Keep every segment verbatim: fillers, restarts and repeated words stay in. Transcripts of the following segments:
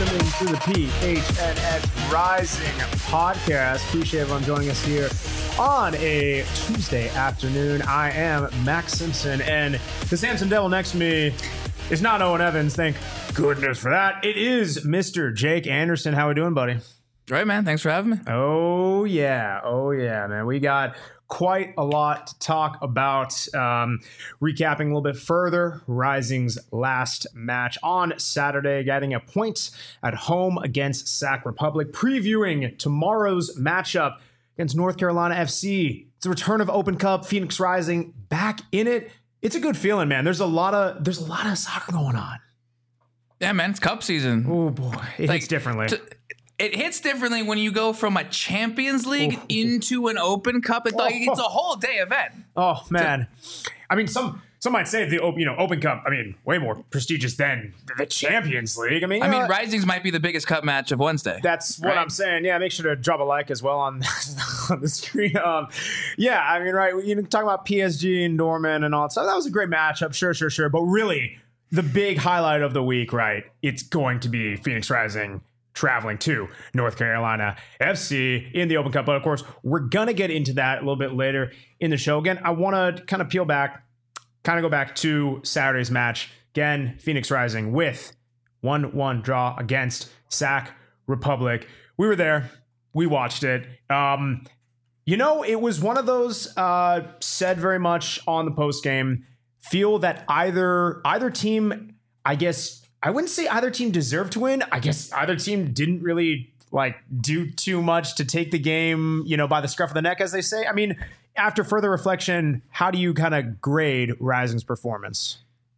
listening to the P H N X Rising podcast. Appreciate everyone joining us here on a Tuesday afternoon. I am Max Simpson, and the Samson Devil next to me is not Owen Evans. Thank goodness for that. It is Mister Jake Anderson. How we doing, buddy? Right, man. Thanks for having me. Oh, yeah. Oh, yeah, man. We got quite a lot to talk about. Um, recapping a little bit further, Rising's last match on Saturday, getting a point at home against Sac Republic, previewing tomorrow's matchup against North Carolina F C. It's the return of Open Cup, Phoenix Rising back in it. It's a good feeling, man. There's a lot of there's a lot of soccer going on. Yeah, man. It's Cup season. Oh boy, it like, hits differently. To, It hits differently when you go from a Champions League Ooh. into an Open Cup. It's, like, it's a whole day event. Oh man, I mean, some some might say the you know Open Cup. I mean, way more prestigious than the Champions League. I mean, I mean, uh, Rising's might be the biggest cup match of Wednesday. That's what right? I'm saying. Yeah, make sure to drop a like as well on, on the screen. Um, yeah, I mean, right, you know, talking about P S G and Dortmund and all that stuff. That was a great matchup, sure, sure, sure. But really, the big highlight of the week, right? It's going to be Phoenix Rising traveling to North Carolina F C in the Open Cup. But of course, we're going to get into that a little bit later in the show. Again, I want to kind of peel back, kind of go back to Saturday's match. Again, Phoenix Rising with one one draw against Sac Republic. We were there. We watched it. Um, you know, it was one of those uh, said very much on the post game. Feel that either either team, I guess, I wouldn't say either team deserved to win. I guess either team didn't really like do too much to take the game, you know, by the scruff of the neck, as they say. I mean, after further reflection, how do you kind of grade Rising's performance?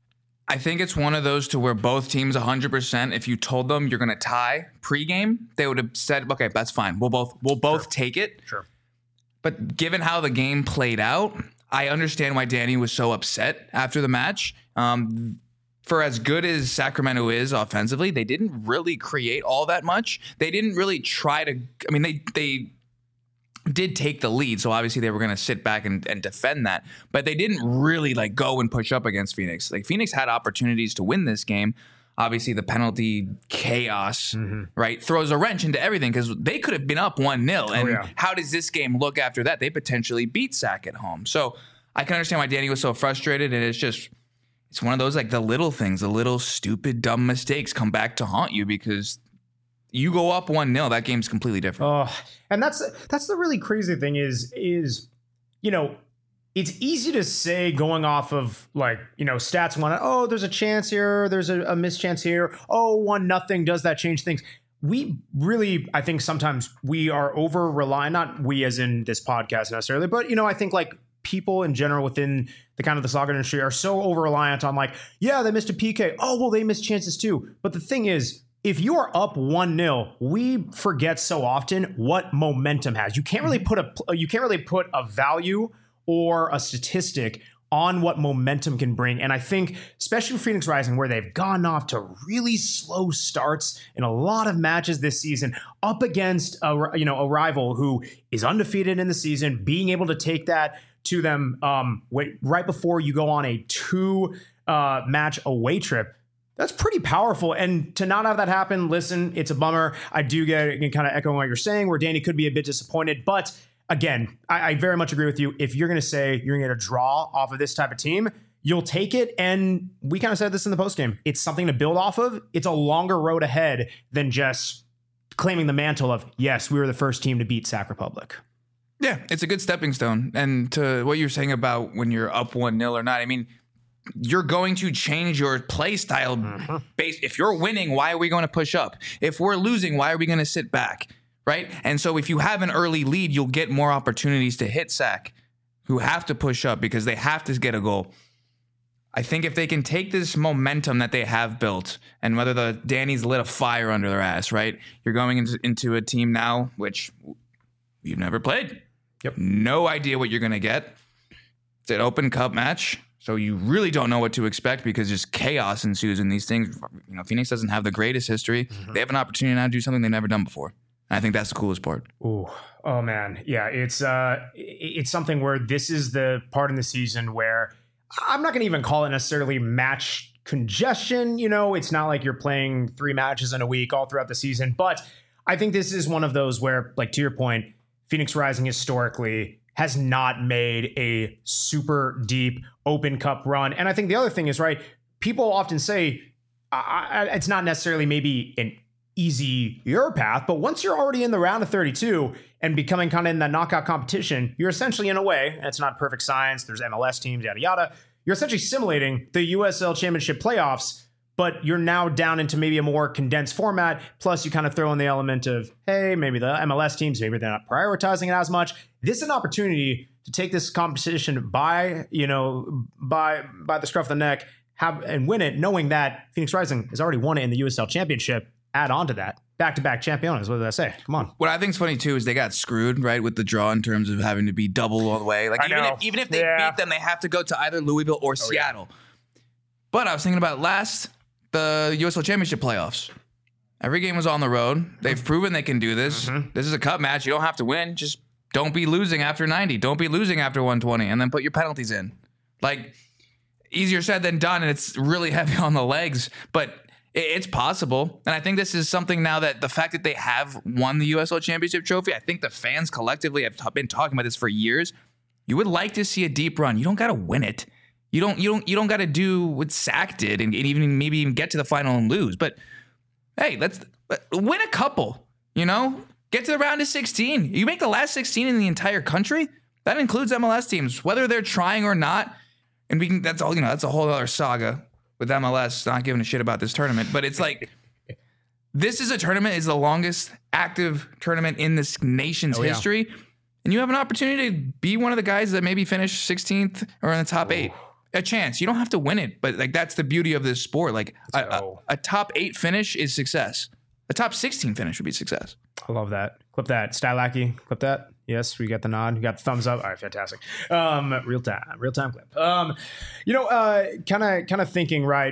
I think it's one of those to where both teams one hundred percent, if you told them you're going to tie pregame, they would have said, okay, that's fine. We'll both we'll both Sure. take it. Sure. But given how the game played out, I understand why Danny was so upset after the match. Um, For as good as Sacramento is offensively, they didn't really create all that much. They didn't really try to. I mean, they they did take the lead, so obviously they were going to sit back and, and defend that. But they didn't really like go and push up against Phoenix. Like Phoenix had opportunities to win this game. Obviously, the penalty chaos, mm-hmm. right, throws a wrench into everything because they could have been up one nil. And oh, yeah. how does this game look after that? They potentially beat Sac at home. So I can understand why Danny was so frustrated, and it's just. It's one of those, like, the little things, the little stupid, dumb mistakes come back to haunt you because you go up one nil, that game's completely different. Oh, and that's that's the really crazy thing is, is, you know, it's easy to say going off of, like, you know, stats, one, oh, there's a chance here, there's a, a mischance here, oh, one nothing, does that change things? We really, I think sometimes we are over reliant, not we as in this podcast necessarily, but, you know, I think, like, people in general within the kind of the soccer industry are so over reliant on like, yeah, they missed a P K. Oh, well, they missed chances too. But the thing is, if you are up one nil, we forget so often what momentum has. You can't really put a you can't really put a value or a statistic on what momentum can bring. And I think, especially Phoenix Rising, where they've gone off to really slow starts in a lot of matches this season, up against a you know a rival who is undefeated in the season, being able to take that to them um, wait, right before you go on a two uh, match away trip. That's pretty powerful. And to not have that happen, listen, it's a bummer. I do get kind of echoing what you're saying, where Danny could be a bit disappointed. But again, I, I very much agree with you. If you're going to say you're going to get a draw off of this type of team, you'll take it. And we kind of said this in the postgame. It's something to build off of. It's a longer road ahead than just claiming the mantle of, yes, we were the first team to beat Sac Republic. Yeah, it's a good stepping stone. And to what you're saying about when you're up one nil or not, I mean, you're going to change your play style. Mm-hmm. Based, if you're winning, why are we going to push up? If we're losing, why are we going to sit back? Right? And so if you have an early lead, you'll get more opportunities to hit Sac, who have to push up because they have to get a goal. I think if they can take this momentum that they have built, and whether the Danny's lit a fire under their ass, right? You're going into, into a team now, which you've never played. Yep. No idea what you're going to get. It's an Open Cup match, so you really don't know what to expect because just chaos ensues in these things. You know, Phoenix doesn't have the greatest history. Mm-hmm. They have an opportunity now to do something they've never done before. And I think that's the coolest part. Ooh, oh man, yeah, it's uh, it's something where this is the part in the season where I'm not going to even call it necessarily match congestion. You know, it's not like you're playing three matches in a week all throughout the season. But I think this is one of those where, like, to your point, Phoenix Rising historically has not made a super deep Open Cup run. And I think the other thing is, right, people often say I, I, it's not necessarily maybe an easy your path, but once you're already in the round of thirty-two and becoming kind of in that knockout competition, you're essentially, in a way, and it's not perfect science, there's M L S teams, yada, yada, you're essentially simulating the U S L Championship playoffs, but you're now down into maybe a more condensed format. Plus, you kind of throw in the element of, hey, maybe the M L S teams, maybe they're not prioritizing it as much. This is an opportunity to take this competition by, you know, by by the scruff of the neck, have and win it, knowing that Phoenix Rising has already won it in the U S L Championship. Add on to that. Back-to-back champions. What did I say? Come on. What I think is funny, too, is they got screwed, right, with the draw in terms of having to be double all the way. Like, I even know. if, even if they Yeah. beat them, they have to go to either Louisville or Seattle. yeah. But I was thinking about last, the U S L Championship playoffs. Every game was on the road. They've proven they can do this. Mm-hmm. This is a cup match. You don't have to win. Just don't be losing after ninety. Don't be losing after one twenty, and then put your penalties in. Like, easier said than done, and it's really heavy on the legs. But it's possible. And I think this is something now that the fact that they have won the U S L Championship trophy, I think the fans collectively have t- been talking about this for years. You would like to see a deep run. You don't got to win it. You don't you don't you don't got to do what Sac did and, and even maybe even get to the final and lose. But hey, let's win a couple, you know? Get to the round of sixteen. You make the last sixteen in the entire country. That includes M L S teams, whether they're trying or not. And we can that's all, you know, that's a whole other saga with M L S not giving a shit about this tournament. But it's like, this is a tournament, is the longest active tournament in this nation's Oh, yeah. history. And you have an opportunity to be one of the guys that maybe finish sixteenth or in the top eight. A chance. You don't have to win it, but like that's the beauty of this sport. Like a, a, a top eight finish is success. A top sixteen finish would be success. I love that. Clip that. Stylaki, clip that. Yes, we got the nod. We got the thumbs up. All right, fantastic. Um, real time, real time clip. Um, you know, uh, kind of, kind of thinking, right?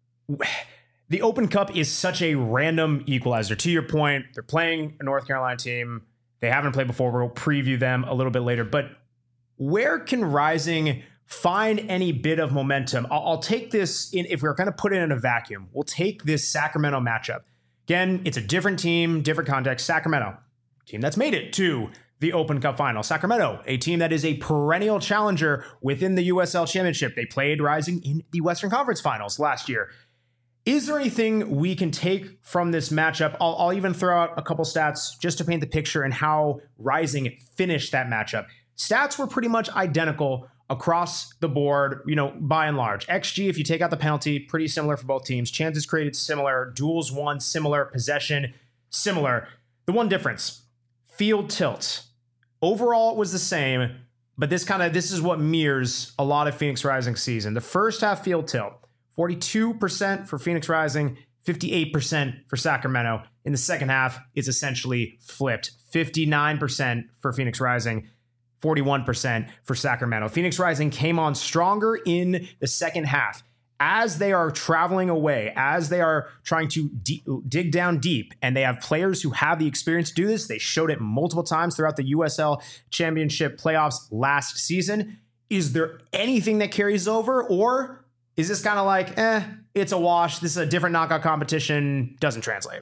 The Open Cup is such a random equalizer. To your point, they're playing a North Carolina team. They haven't played before. We'll preview them a little bit later. But where can Rising find any bit of momentum? I'll, I'll take this in, if we're going to put it in a vacuum, we'll take this Sacramento matchup. Again, it's a different team, different context. Sacramento, team that's made it to the Open Cup final. Sacramento, a team that is a perennial challenger within the U S L Championship. They played Rising in the Western Conference Finals last year. Is there anything we can take from this matchup? I'll, I'll even throw out a couple stats just to paint the picture and how Rising finished that matchup. Stats were pretty much identical across the board, you know, by and large. X G, if you take out the penalty, pretty similar for both teams. Chances created, similar. Duels won, similar. Possession, similar. The one difference, field tilt. Overall, it was the same, but this kind of, this is what mirrors a lot of Phoenix Rising season. The first half field tilt, forty-two percent for Phoenix Rising, fifty-eight percent for Sacramento. In the second half, it's essentially flipped. fifty-nine percent for Phoenix Rising, forty-one percent for Sacramento. Phoenix Rising came on stronger in the second half. As they are traveling away, as they are trying to de- dig down deep, and they have players who have the experience to do this. They showed it multiple times throughout the U S L Championship playoffs last season. Is there anything that carries over, or is this kind of like, eh, it's a wash, this is a different knockout competition, doesn't translate?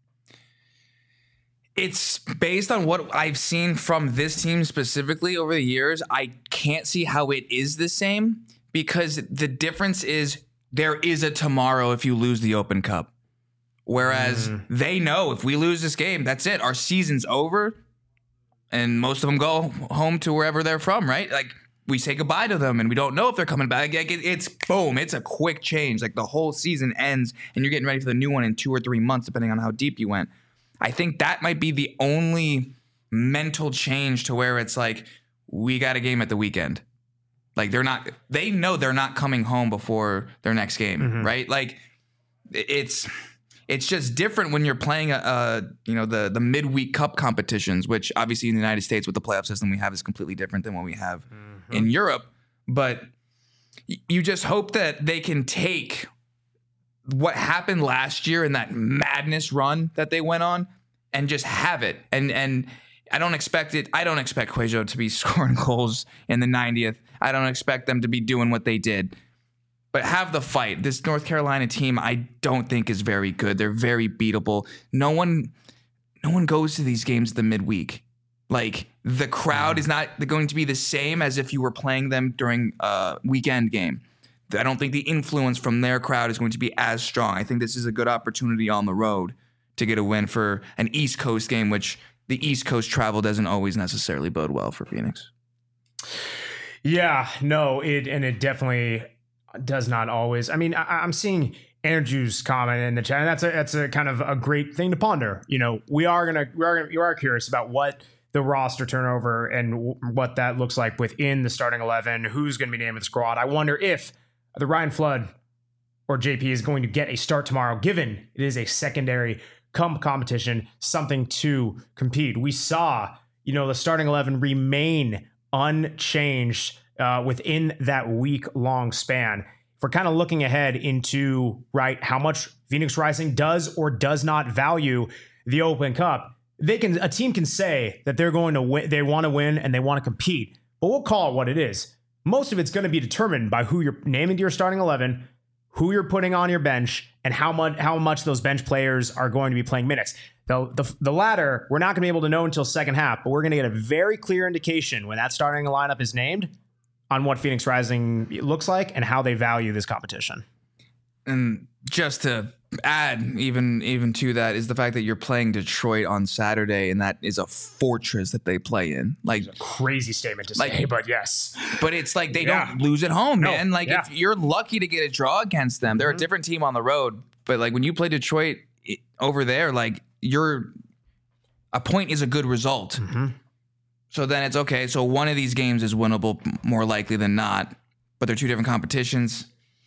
It's based on what I've seen from this team specifically over the years. I can't see how it is the same, because the difference is there is a tomorrow if you lose the Open Cup. Whereas mm. they know if we lose this game, that's it. Our season's over. And most of them go home to wherever they're from, right? Like, we say goodbye to them and we don't know if they're coming back. Like, it's boom. It's a quick change. Like, the whole season ends and you're getting ready for the new one in two or three months, depending on how deep you went. I think that might be the only mental change to where it's like, we got a game at the weekend. Like, they're not, they know they're not coming home before their next game, mm-hmm. right? Like, it's, it's just different when you're playing a, a you know, the, the midweek cup competitions, which obviously in the United States with the playoff system we have is completely different than what we have mm-hmm. in Europe. But you just hope that they can take what happened last year in that madness run that they went on and just have it. And, and I don't expect it. I don't expect Cuello to be scoring goals in the ninetieth. I don't expect them to be doing what they did. but have the fight. This North Carolina team, I don't think is very good. They're very beatable. No one, no one goes to these games the midweek. Like the crowd is not going to be the same as if you were playing them during a weekend game. I don't think the influence from their crowd is going to be as strong. I think this is a good opportunity on the road to get a win for an East Coast game, which the East Coast travel doesn't always necessarily bode well for Phoenix. Yeah, no, it and it definitely does not always. I mean, I, I'm seeing Andrew's comment in the chat, and that's a that's a kind of a great thing to ponder. You know, we are gonna we are gonna, we are curious about what the roster turnover and w- what that looks like within the starting eleven. Who's going to be named in the squad? I wonder if the Ryan Flood or J P is going to get a start tomorrow, given it is a secondary com- competition, something to compete. We saw, you know, the starting eleven remain unchanged uh, within that week-long span. If we're kind of looking ahead into, right, how much Phoenix Rising does or does not value the Open Cup, they can a team can say that they're going to win, they want to win and they want to compete, but we'll call it what it is. Most of it's going to be determined by who you're naming to your starting eleven, who you're putting on your bench, and how much how much those bench players are going to be playing minutes. The, the, the latter, we're not going to be able to know until second half, but we're going to get a very clear indication when that starting lineup is named on what Phoenix Rising looks like and how they value this competition. And just to add even even to that is the fact that you're playing Detroit on Saturday, and that is a fortress that they play in. Like, it's a crazy statement to like, say, but yes. But it's like they yeah. don't lose at home, no, man. Like, yeah. if you're lucky to get a draw against them. They're mm-hmm. a different team on the road, but like when you play Detroit it, over there, like you're a point is a good result. Mm-hmm. So then it's okay. So one of these games is winnable more likely than not, but they're two different competitions.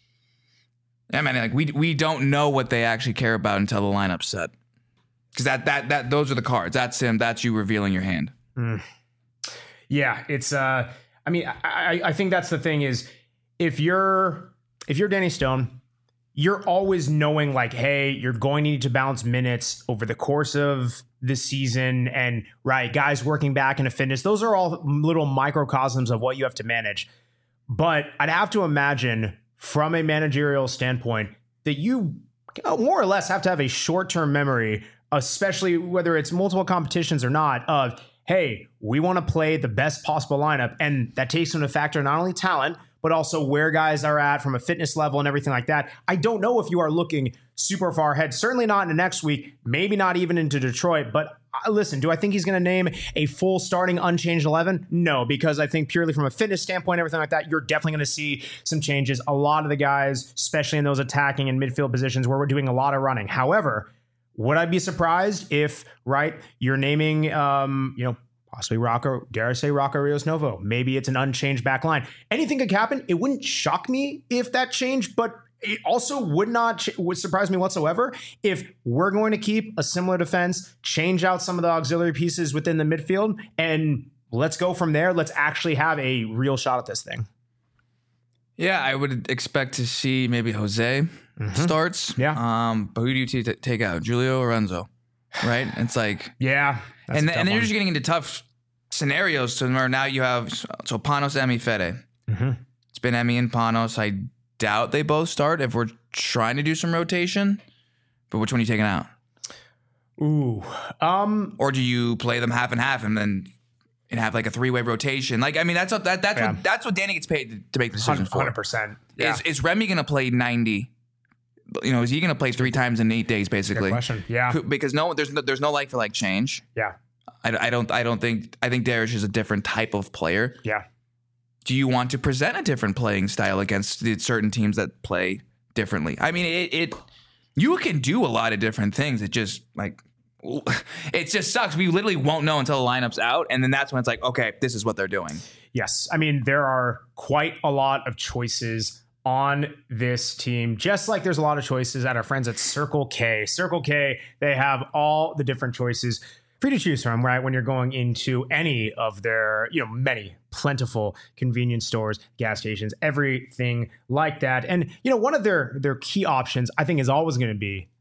I mean, like we we don't know what they actually care about until the lineup's set, because that that that those are the cards. That's him. That's you revealing your hand. Mm. Yeah, it's. Uh, I mean, I I think that's the thing is if you're if you're Danny Stone, you're always knowing like, hey, you're going to need to balance minutes over the course of the season, and right, guys working back into fitness. Those are all little microcosms of what you have to manage. But I'd have to imagine, from a managerial standpoint, that you more or less have to have a short-term memory, especially whether it's multiple competitions or not, of, hey, we want to play the best possible lineup. And that takes into factor not only talent, but also where guys are at from a fitness level and everything like that. I don't know if you are looking super far ahead, certainly not into next week, maybe not even into Detroit. But uh, listen, do I think he's going to name a full starting unchanged eleven? No, because I think purely from a fitness standpoint, everything like that, you're definitely going to see some changes. A lot of the guys, especially in those attacking and midfield positions where we're doing a lot of running. However, would I be surprised if, right, you're naming, um, you know, possibly Rocco, dare I say Rocco Rios Novo. Maybe it's an unchanged back line. Anything could happen. It wouldn't shock me if that changed, but it also would not ch- would surprise me whatsoever if we're going to keep a similar defense, change out some of the auxiliary pieces within the midfield, and let's go from there. Let's actually have a real shot at this thing. Yeah, I would expect to see maybe Jose mm-hmm. starts. Yeah. Um, but who do you t- take out? Julio or Renzo? Right? It's like... yeah. And, and then you're just getting into tough scenarios. So now you have so Panos, Emi, Fede. Mm-hmm. It's been Emi and Panos. I doubt they both start if we're trying to do some rotation. But which one are you taking out? Ooh. Um. Or do you play them half and half and then and have like a three way rotation? Like, I mean, that's what that that's yeah. what that's what Danny gets paid to, to make the decisions for. one hundred percent. Yeah. Is is Remy going to play ninety? You know, is he going to play three times in eight days, basically? Good question. Yeah. Because no, there's no, there's no like for like change. Yeah. I, I don't I don't think I think Darius is a different type of player. Yeah. Do you want to present a different playing style against the certain teams that play differently? I mean, it, it you can do a lot of different things. It just like it just sucks. We literally won't know until the lineup's out, and then that's when it's like, okay, this is what they're doing. Yes, I mean there are quite a lot of choices on this team, just like there's a lot of choices at our friends at Circle K. Circle K, they have all the different choices for you to choose from, right? When you're going into any of their, you know, many plentiful convenience stores, gas stations, everything like that. And, you know, one of their, their key options, I think, is always going to be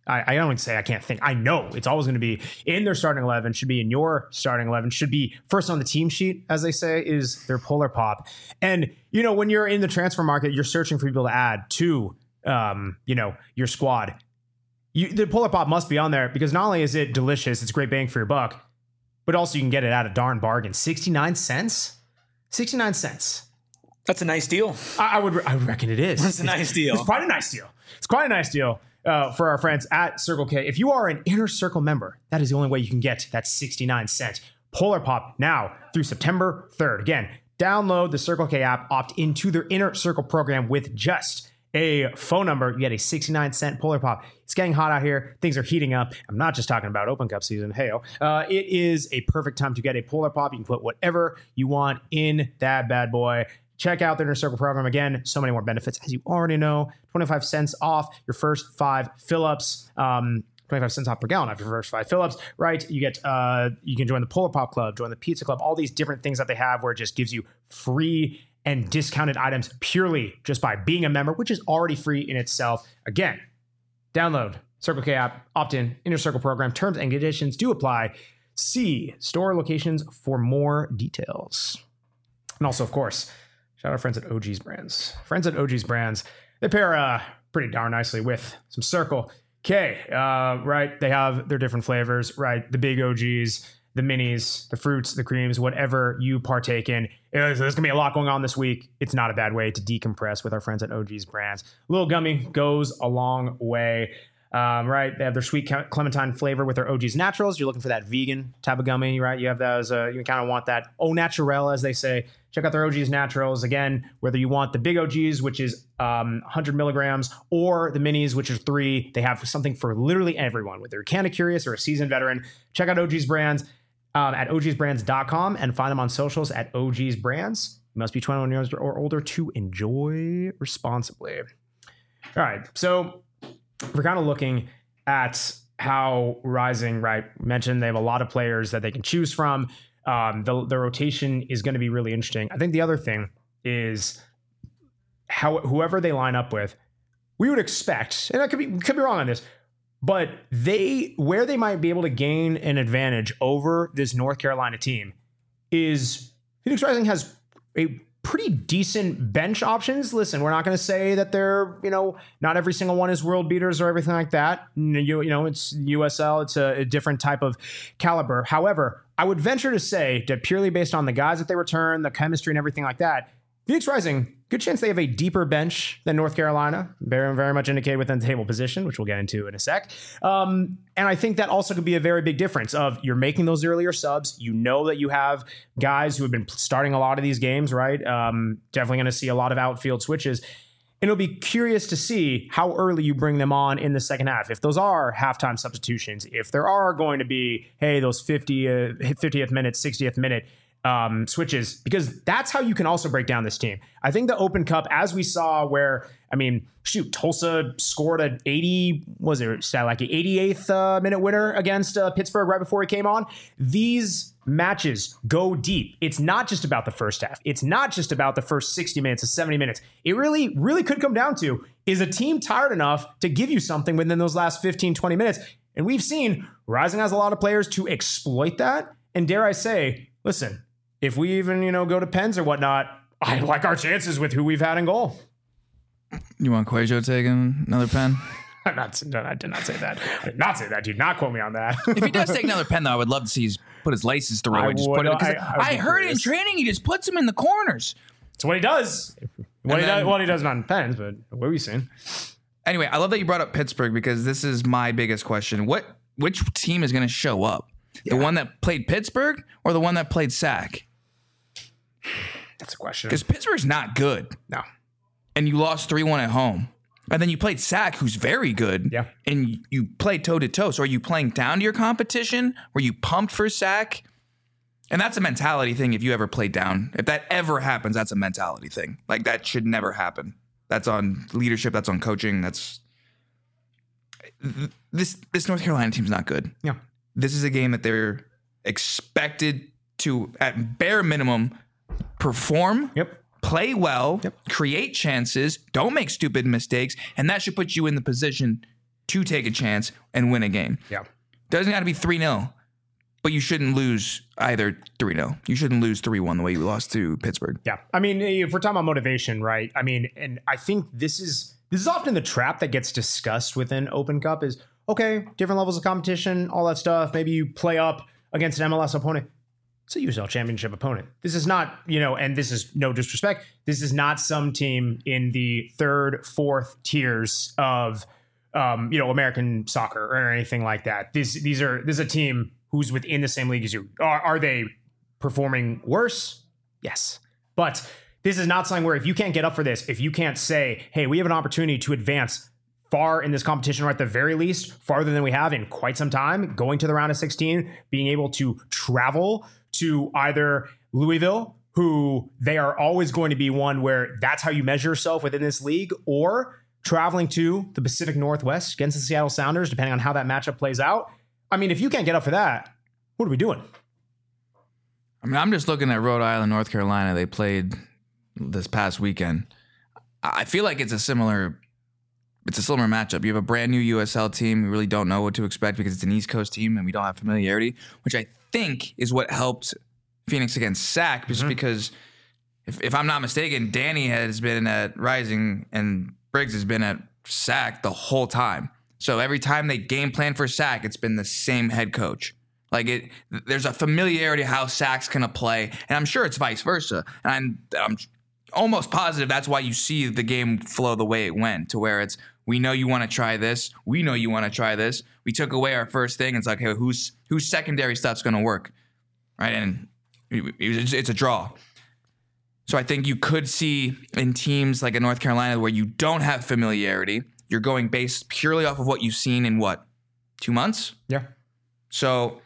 I, I don't even say I can't think. I know it's always going to be in their starting eleven, should be in your starting eleven, should be first on the team sheet, as they say, is their Polar Pop. And, you know, when you're in the transfer market, you're searching for people to add to, um, you know, your squad. You, the Polar Pop must be on there because not only is it delicious, it's great bang for your buck, but also you can get it at a darn bargain. sixty-nine cents? sixty-nine cents. That's a nice deal. I, I would I would reckon it is. That's a nice deal. It's quite a nice deal. It's quite a nice deal uh, for our friends at Circle K. If you are an Inner Circle member, that is the only way you can get that sixty-nine cent Polar Pop now through September third. Again, download the Circle K app, opt into their Inner Circle program with just a phone number. You get a sixty-nine cent Polar Pop. It's getting hot out here. Things are heating up. I'm not just talking about Open Cup season. Hey-o. Uh, it is a perfect time to get a Polar Pop. You can put whatever you want in that bad boy. Check out the Inner Circle program. Again, so many more benefits, as you already know. twenty-five cents off your first five fill-ups. Um, twenty-five cents off per gallon after your first five fill-ups, right? You get, uh, you can join the Polar Pop Club, join the Pizza Club, all these different things that they have where it just gives you free and discounted items purely just by being a member, which is already free in itself. Again, download Circle K app, opt in, Inner Circle program. Terms and conditions do apply. See store locations for more details. And also, of course, shout out our friends at O G's Brands. Friends at O G's Brands, they pair uh, pretty darn nicely with some Circle K, uh, right? They have their different flavors, right? The big O Gs, the minis, the fruits, the creams, whatever you partake in. There's, there's going to be a lot going on this week. It's not a bad way to decompress with our friends at O G's Brands. Little gummy goes a long way. Um, right, they have their sweet clementine flavor with their O G's Naturals. You're looking for that vegan type of gummy, right? You have those, uh, you kind of want that au naturel, as they say. Check out their O G's Naturals. Again, whether you want the big O Gs, which is um, one hundred milligrams, or the minis, which is three, they have something for literally everyone. Whether you're kind of curious or a seasoned veteran, check out O G's Brands um, at O Gs brands dot com and find them on socials at O G's Brands. You must be twenty-one years or older to enjoy responsibly. All right, so we're kind of looking at how Rising, right, mentioned they have a lot of players that they can choose from. Um, the, the rotation is going to be really interesting. I think the other thing is how whoever they line up with, we would expect, and I could be could be wrong on this, but they where they might be able to gain an advantage over this North Carolina team is Phoenix Rising has a pretty decent bench options. Listen, we're not going to say that they're, you know, not every single one is world beaters or everything like that. You, you know, it's U S L. It's a, a different type of caliber. However, I would venture to say that purely based on the guys that they return, the chemistry and everything like that, Phoenix Rising, good chance they have a deeper bench than North Carolina. Very, very much indicated within the table position, which we'll get into in a sec. Um, and I think that also could be a very big difference of you're making those earlier subs. You know that you have guys who have been starting a lot of these games, right? Um, definitely going to see a lot of outfield switches. And it'll be curious to see how early you bring them on in the second half. If those are halftime substitutions, if there are going to be, hey, those fifty, uh, fiftieth minute, sixtieth minute Um, switches, because that's how you can also break down this team. I think the Open Cup, as we saw where, I mean, shoot, Tulsa scored an eighty, was it stat like an eighty-eighth uh, minute winner against uh, Pittsburgh right before he came on. These matches go deep. It's not just about the first half. It's not just about the first sixty minutes to seventy minutes. It really, really could come down to, is a team tired enough to give you something within those last fifteen, twenty minutes? And we've seen Rising has a lot of players to exploit that. And dare I say, listen, if we even, you know, go to pens or whatnot, I like our chances with who we've had in goal. You want Cuejo taking another pen? I'm not, I did not say that. I did not say that. Do not quote me on that. If he does take another pen, though, I would love to see his put his laces through I and just would, put it. I, I, I heard it in training. He just puts them in the corners. It's what he does. What he, then, does what he does not in pens, but what have we seen? Anyway, I love that you brought up Pittsburgh because this is my biggest question. What which team is going to show up? Yeah. The one that played Pittsburgh or the one that played Sac? That's a question. Because Pittsburgh's not good. No. And you lost three one at home. And then you played Sac, who's very good. Yeah. And you played toe-to-toe. So are you playing down to your competition? Were you pumped for Sac? And that's a mentality thing if you ever play down. If that ever happens, that's a mentality thing. Like, that should never happen. That's on leadership. That's on coaching. That's... This, this North Carolina team's not good. Yeah. This is a game that they're expected to, at bare minimum, perform, yep. play well, yep. create chances, don't make stupid mistakes, and that should put you in the position to take a chance and win a game. Yeah. Doesn't got to be three nil, but you shouldn't lose either three nil. You shouldn't lose three one the way you lost to Pittsburgh. Yeah. I mean, if we're talking about motivation, right? I mean, and I think this is this is often the trap that gets discussed within Open Cup is, okay, different levels of competition, all that stuff. Maybe you play up against an M L S opponent. It's a U S L Championship opponent. This is not, you know, and this is no disrespect. This is not some team in the third, fourth tiers of, um, you know, American soccer or anything like that. These these are this is a team who's within the same league as you. Are, are they performing worse? Yes, but this is not something where if you can't get up for this, if you can't say, hey, we have an opportunity to advance far in this competition, or at the very least, farther than we have in quite some time, going to the round of sixteen, being able to travel to either Louisville, who they are always going to be one where that's how you measure yourself within this league, or traveling to the Pacific Northwest against the Seattle Sounders, depending on how that matchup plays out. I mean, if you can't get up for that, what are we doing? I mean, I'm just looking at Rhode Island, North Carolina. They played this past weekend. I feel like it's a similar It's a similar matchup. You have a brand new U S L team. We really don't know what to expect because it's an East Coast team and we don't have familiarity, which I think is what helped Phoenix against S A C, just mm-hmm. because if, if I'm not mistaken, Danny has been at Rising and Briggs has been at S A C the whole time. So every time they game plan for S A C, it's been the same head coach. Like it, there's a familiarity of how S A C's gonna play, and I'm sure it's vice versa. And I'm, I'm almost positive that's why you see the game flow the way it went, to where it's, we know you want to try this. We know you want to try this. We took away our first thing. It's like, hey, who's whose secondary stuff's going to work, right? And it's a draw. So I think you could see in teams like in North Carolina where you don't have familiarity, you're going based purely off of what you've seen in what, two months? Yeah. So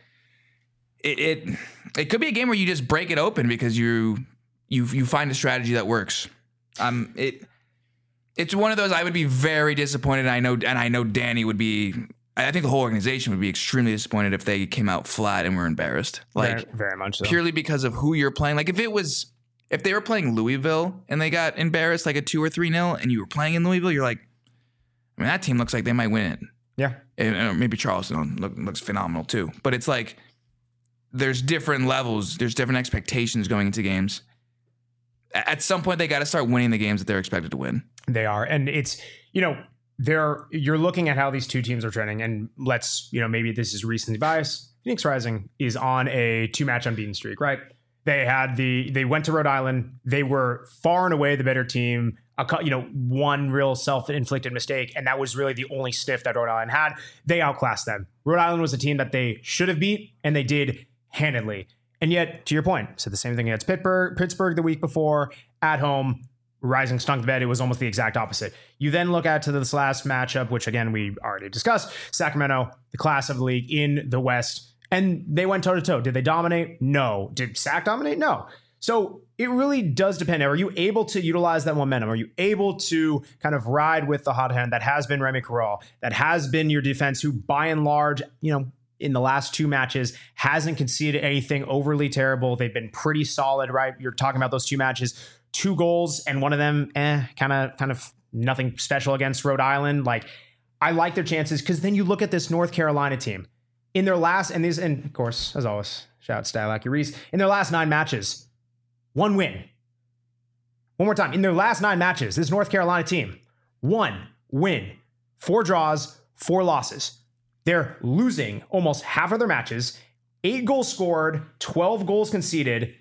it it, it could be a game where you just break it open because you you you find a strategy that works. Um, it. It's one of those I would be very disappointed. I know, and I know Danny would be. I think the whole organization would be extremely disappointed if they came out flat and were embarrassed. Like very, very much so. Purely because of who you're playing. Like if it was, if they were playing Louisville and they got embarrassed like a two or three nil, and you were playing in Louisville, you're like, I mean, that team looks like they might win it. Yeah, and, and maybe Charleston look, looks phenomenal too. But it's like there's different levels, there's different expectations going into games. At some point, they got to start winning the games that they're expected to win. They are. And it's, you know, they're, you're looking at how these two teams are trending. And let's, you know, maybe this is recency bias. Phoenix Rising is on a two match unbeaten streak, right? They had the, they went to Rhode Island. They were far and away the better team. A, you know, one real self-inflicted mistake. And that was really the only sniff that Rhode Island had. They outclassed them. Rhode Island was a team that they should have beat, and they did handedly. And yet, to your point, said the same thing against Pittsburgh, Pittsburgh the week before at home. Rising stunk the bed. It was almost the exact opposite. You then look at to this last matchup, which again we already discussed. Sacramento, the class of the league in the West, and they went toe to toe. Did they dominate? No. Did S A C dominate? No. So it really does depend. Are you able to utilize that momentum? Are you able to kind of ride with the hot hand that has been Remy Corral, that has been your defense, who by and large, you know, in the last two matches hasn't conceded anything overly terrible. They've been pretty solid, right? You're talking about those two matches, two goals, and one of them, eh, kind of, kind of nothing special against Rhode Island. Like, I like their chances because then you look at this North Carolina team in their last, and these, and of course, as always, shout out Stylac Reese, in their last nine matches, one win. One more time, in their last nine matches, this North Carolina team, one win, four draws, four losses. They're losing almost half of their matches, eight goals scored, twelve goals conceded,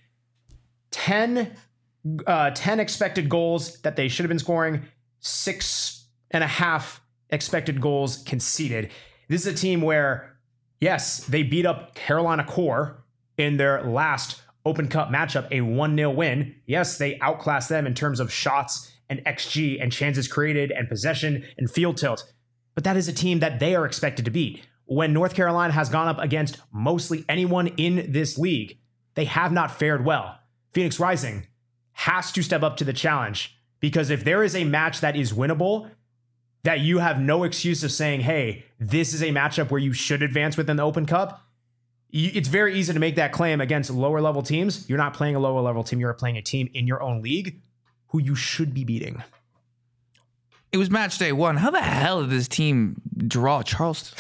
ten, uh, ten expected goals that they should have been scoring, six and a half expected goals conceded. This is a team where, yes, they beat up Carolina Core in their last Open Cup matchup, a one nil win. Yes, they outclassed them in terms of shots and X G and chances created and possession and field tilt. But that is a team that they are expected to beat. When North Carolina has gone up against mostly anyone in this league, they have not fared well. Phoenix Rising has to step up to the challenge, because if there is a match that is winnable, that you have no excuse of saying, hey, this is a matchup where you should advance within the Open Cup, it's very easy to make that claim against lower level teams. You're not playing a lower level team. You're playing a team in your own league who you should be beating. It was match day one. How the hell did this team draw Charleston?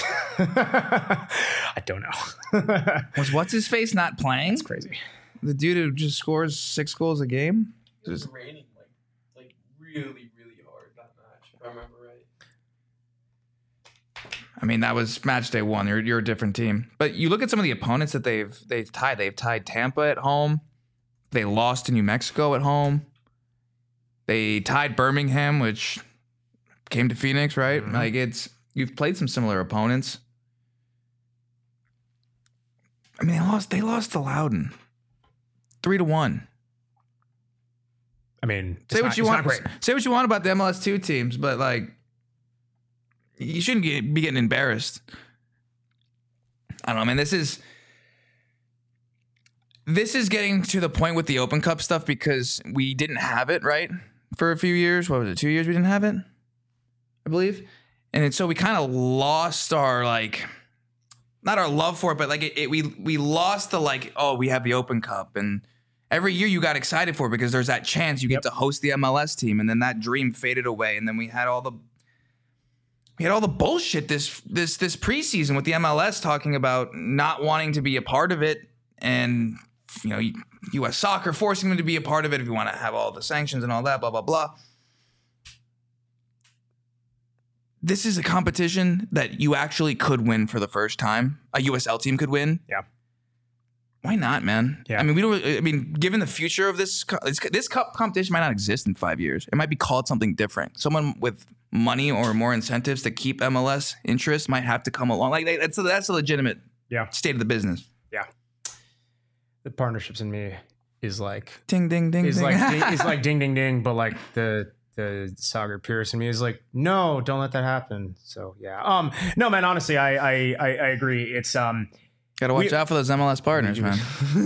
I don't know. Was what's his face not playing? It's crazy. The dude who just scores six goals a game. It was raining like like really really hard that match, if I remember right. I mean, that was match day one. You're you're a different team. But you look at some of the opponents that they've they've tied. They've tied Tampa at home. They lost to New Mexico at home. They tied Birmingham, which came to Phoenix, right? Mm-hmm. Like it's you've played some similar opponents. I mean, they lost. They lost to Loudoun, three to one. I mean, say what not, you want. Great. Say what you want about the M L S two teams, but like, you shouldn't get, be getting embarrassed. I don't know, man. This is this is getting to the point with the Open Cup stuff because we didn't have it right for a few years. What was it? Two years we didn't have it, I believe, and it, so we kind of lost our like. Not our love for it, but like it, it, we we lost the like, oh, we have the Open Cup. And every year you got excited for it because there's that chance you get yep. to host the M L S team. And then that dream faded away. And then we had all the we had all the bullshit this this this preseason with the M L S talking about not wanting to be a part of it. And, you know, U S Soccer forcing them to be a part of it if you want to have all the sanctions and all that, blah, blah, blah. This is a competition that you actually could win for the first time. A U S L team could win. Yeah. Why not, man? Yeah. I mean, we don't. I mean, given the future of this, this cup competition might not exist in five years. It might be called something different. Someone with money or more incentives to keep M L S interest might have to come along. Like that's a, that's a legitimate yeah. state of the business. Yeah. The partnerships in me is like ding ding ding. Is ding. like ding, is like ding ding ding, but like the. The Sagar Pierce in me is like, no, don't let that happen. So yeah, um, no, man. Honestly, I I I, I agree. It's um, gotta watch we, out for those M L S partners, man.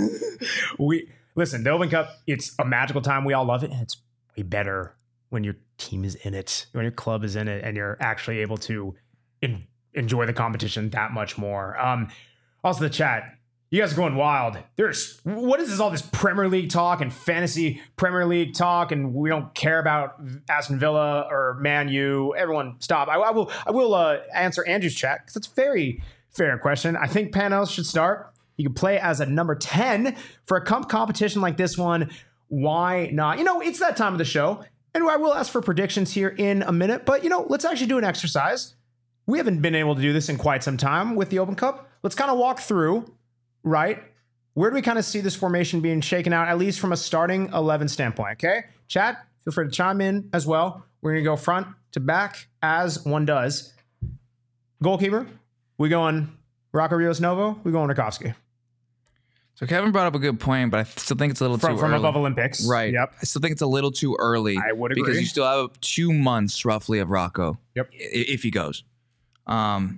we listen. The Open Cup, it's a magical time. We all love it, and it's way better when your team is in it, when your club is in it, and you're actually able to in, enjoy the competition that much more. Um, also the chat. You guys are going wild. There's what is this? All this Premier League talk and fantasy Premier League talk, and we don't care about Aston Villa or Man U. Everyone, stop. I, I will. I will uh, answer Andrew's chat because it's a very fair question. I think Panos should start. He could play as a number ten for a comp competition like this one. Why not? You know, it's that time of the show, and I will ask for predictions here in a minute. But you know, let's actually do an exercise. We haven't been able to do this in quite some time with the Open Cup. Let's kind of walk through. Right? Where do we kind of see this formation being shaken out, at least from a starting eleven standpoint? Okay? Chat, feel free to chime in as well. We're going to go front to back as one does. Goalkeeper, we going Rocco Rios Novo, we going Rakowski. So Kevin brought up a good point, but I still think it's a little from, too from early. From above Olympics. Right. Yep. I still think it's a little too early. I would agree. Because you still have two months roughly of Rocco. Yep. If he goes. Um,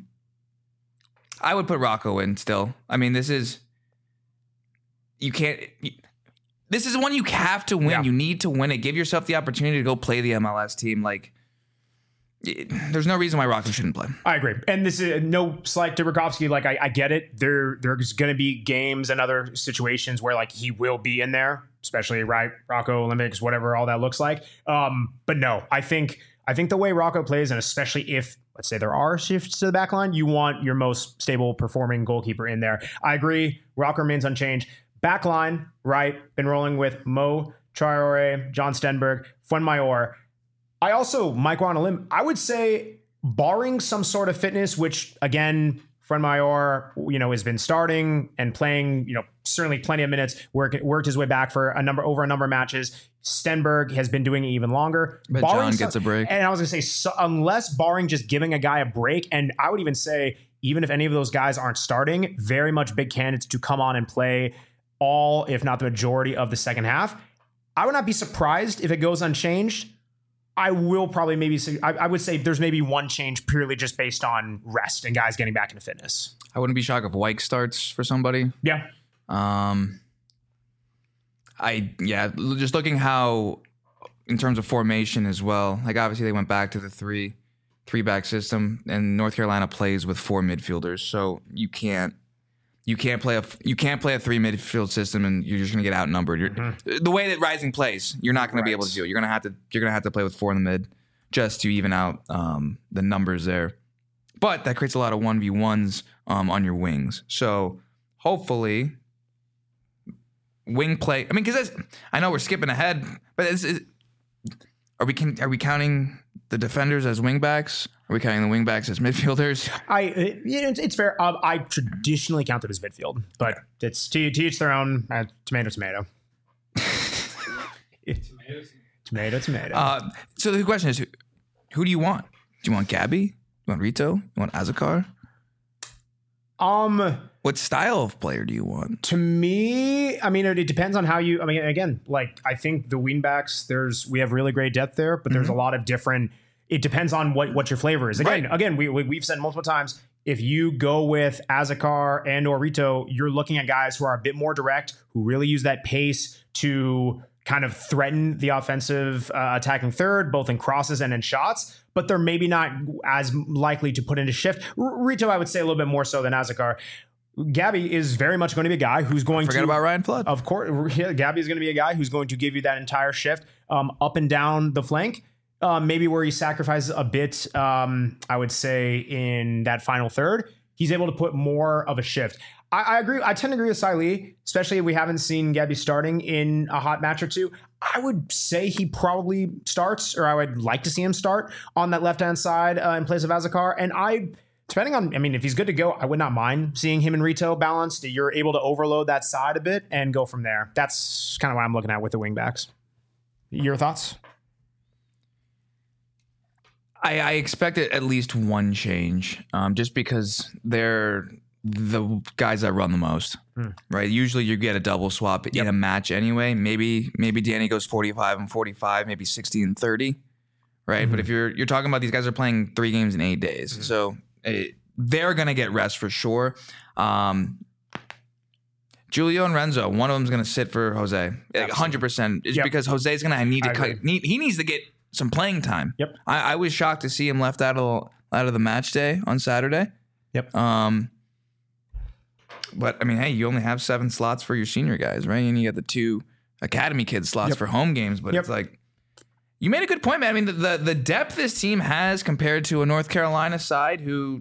I would put Rocco in still. I mean, this is, you can't, you, this is one you have to win. Yeah. You need to win it. Give yourself the opportunity to go play the M L S team. Like, it, there's no reason why Rocco shouldn't play. I agree. And this is no slight to Rakowski. Like, I, I get it. There, there's going to be games and other situations where, like, he will be in there, especially, right, Rocco Olympics, whatever all that looks like. Um, but no, I think, I think the way Rocco plays, and especially if, let's say there are shifts to the back line, you want your most stable performing goalkeeper in there. I agree. Rocco remains unchanged. Back line, right, been rolling with Mo Traore, John Stenberg, Fuenmayor. I also, Mike on a limb, I would say, barring some sort of fitness, which, again, Fuenmayor, you know, has been starting and playing, you know, certainly plenty of minutes, work, worked his way back for a number, over a number of matches. Stenberg has been doing it even longer. But barring John gets some, a break. And I was going to say, so, unless barring just giving a guy a break, and I would even say, even if any of those guys aren't starting, very much big candidates to come on and play all, if not the majority of the second half. I would not be surprised if it goes unchanged. I will probably maybe say, I, I would say there's maybe one change purely just based on rest and guys getting back into fitness. I wouldn't be shocked if Wyke starts for somebody. Yeah. Um, I, yeah, just looking how, in terms of formation as well, like obviously they went back to the three, three back system, and North Carolina plays with four midfielders. So you can't, you can't play a, you can't play a three midfield system and you're just going to get outnumbered. You're, mm-hmm. The way that Rising plays, you're not going to be able to do it. You're going to have to, you're going to have to play with four in the mid. just to even out um, the numbers there. But that creates a lot of one v ones um, on your wings. So hopefully wing play. I mean, because I know we're skipping ahead, but is, is, are we can, are we counting the defenders as wing backs? Are we counting the wing backs as midfielders? I it, it's, it's fair. Um, I traditionally count them as midfield, but it's to, to each their own. Uh, tomato, tomato. tomato, tomato. Uh, so the question is, who, who do you want? Do you want Gabby? You want Rito? You want Azakar? Um, what style of player do you want? To me, I mean, it, it depends on how you. I mean, again, like I think the wingbacks, there's we have really great depth there, but there's mm-hmm. a lot of different. It depends on what, what your flavor is. Again, right. again, we, we we've said multiple times. If you go with Azakar and or Rito, you're looking at guys who are a bit more direct, who really use that pace to kind of threaten the offensive uh, attacking third, both in crosses and in shots, but they're maybe not as likely to put into shift. R- Rito, I would say a little bit more so than Azakar. Gabby is very much going to be a guy who's going Forget to... Forget about Ryan Flood. Of course, yeah, Gabby is going to be a guy who's going to give you that entire shift um, up and down the flank. Um, maybe where he sacrifices a bit, um, I would say, in that final third, he's able to put more of a shift. I, I agree. I tend to agree with Sai Lee, especially if we haven't seen Gabby starting in a hot match or two. I would say he probably starts, or I would like to see him start on that left-hand side uh, in place of Azakar. And I, depending on, I mean, if he's good to go, I would not mind seeing him and Rito balanced. You're able to overload that side a bit and go from there. That's kind of what I'm looking at with the wingbacks. Your thoughts? I, I expected at least one change, um, just because they're the guys that run the most, mm. right? Usually you get a double swap yep. in a match anyway. Maybe maybe Danny goes forty-five and forty-five, maybe sixty and thirty, right? Mm-hmm. But if you're you're talking about these guys are playing three games in eight days, mm-hmm. so it, they're gonna get rest for sure. Um, Julio and Renzo, one of them's gonna sit for Jose, one hundred percent. It's yep. because Jose's gonna need to cut. Need, he needs to get some playing time. Yep. I, I was shocked to see him left out of out of the match day on Saturday. Yep. Um. But I mean, hey, you only have seven slots for your senior guys, right? And you got the two academy kids slots yep. for home games. But yep. it's like you made a good point, man. I mean, the, the the depth this team has compared to a North Carolina side who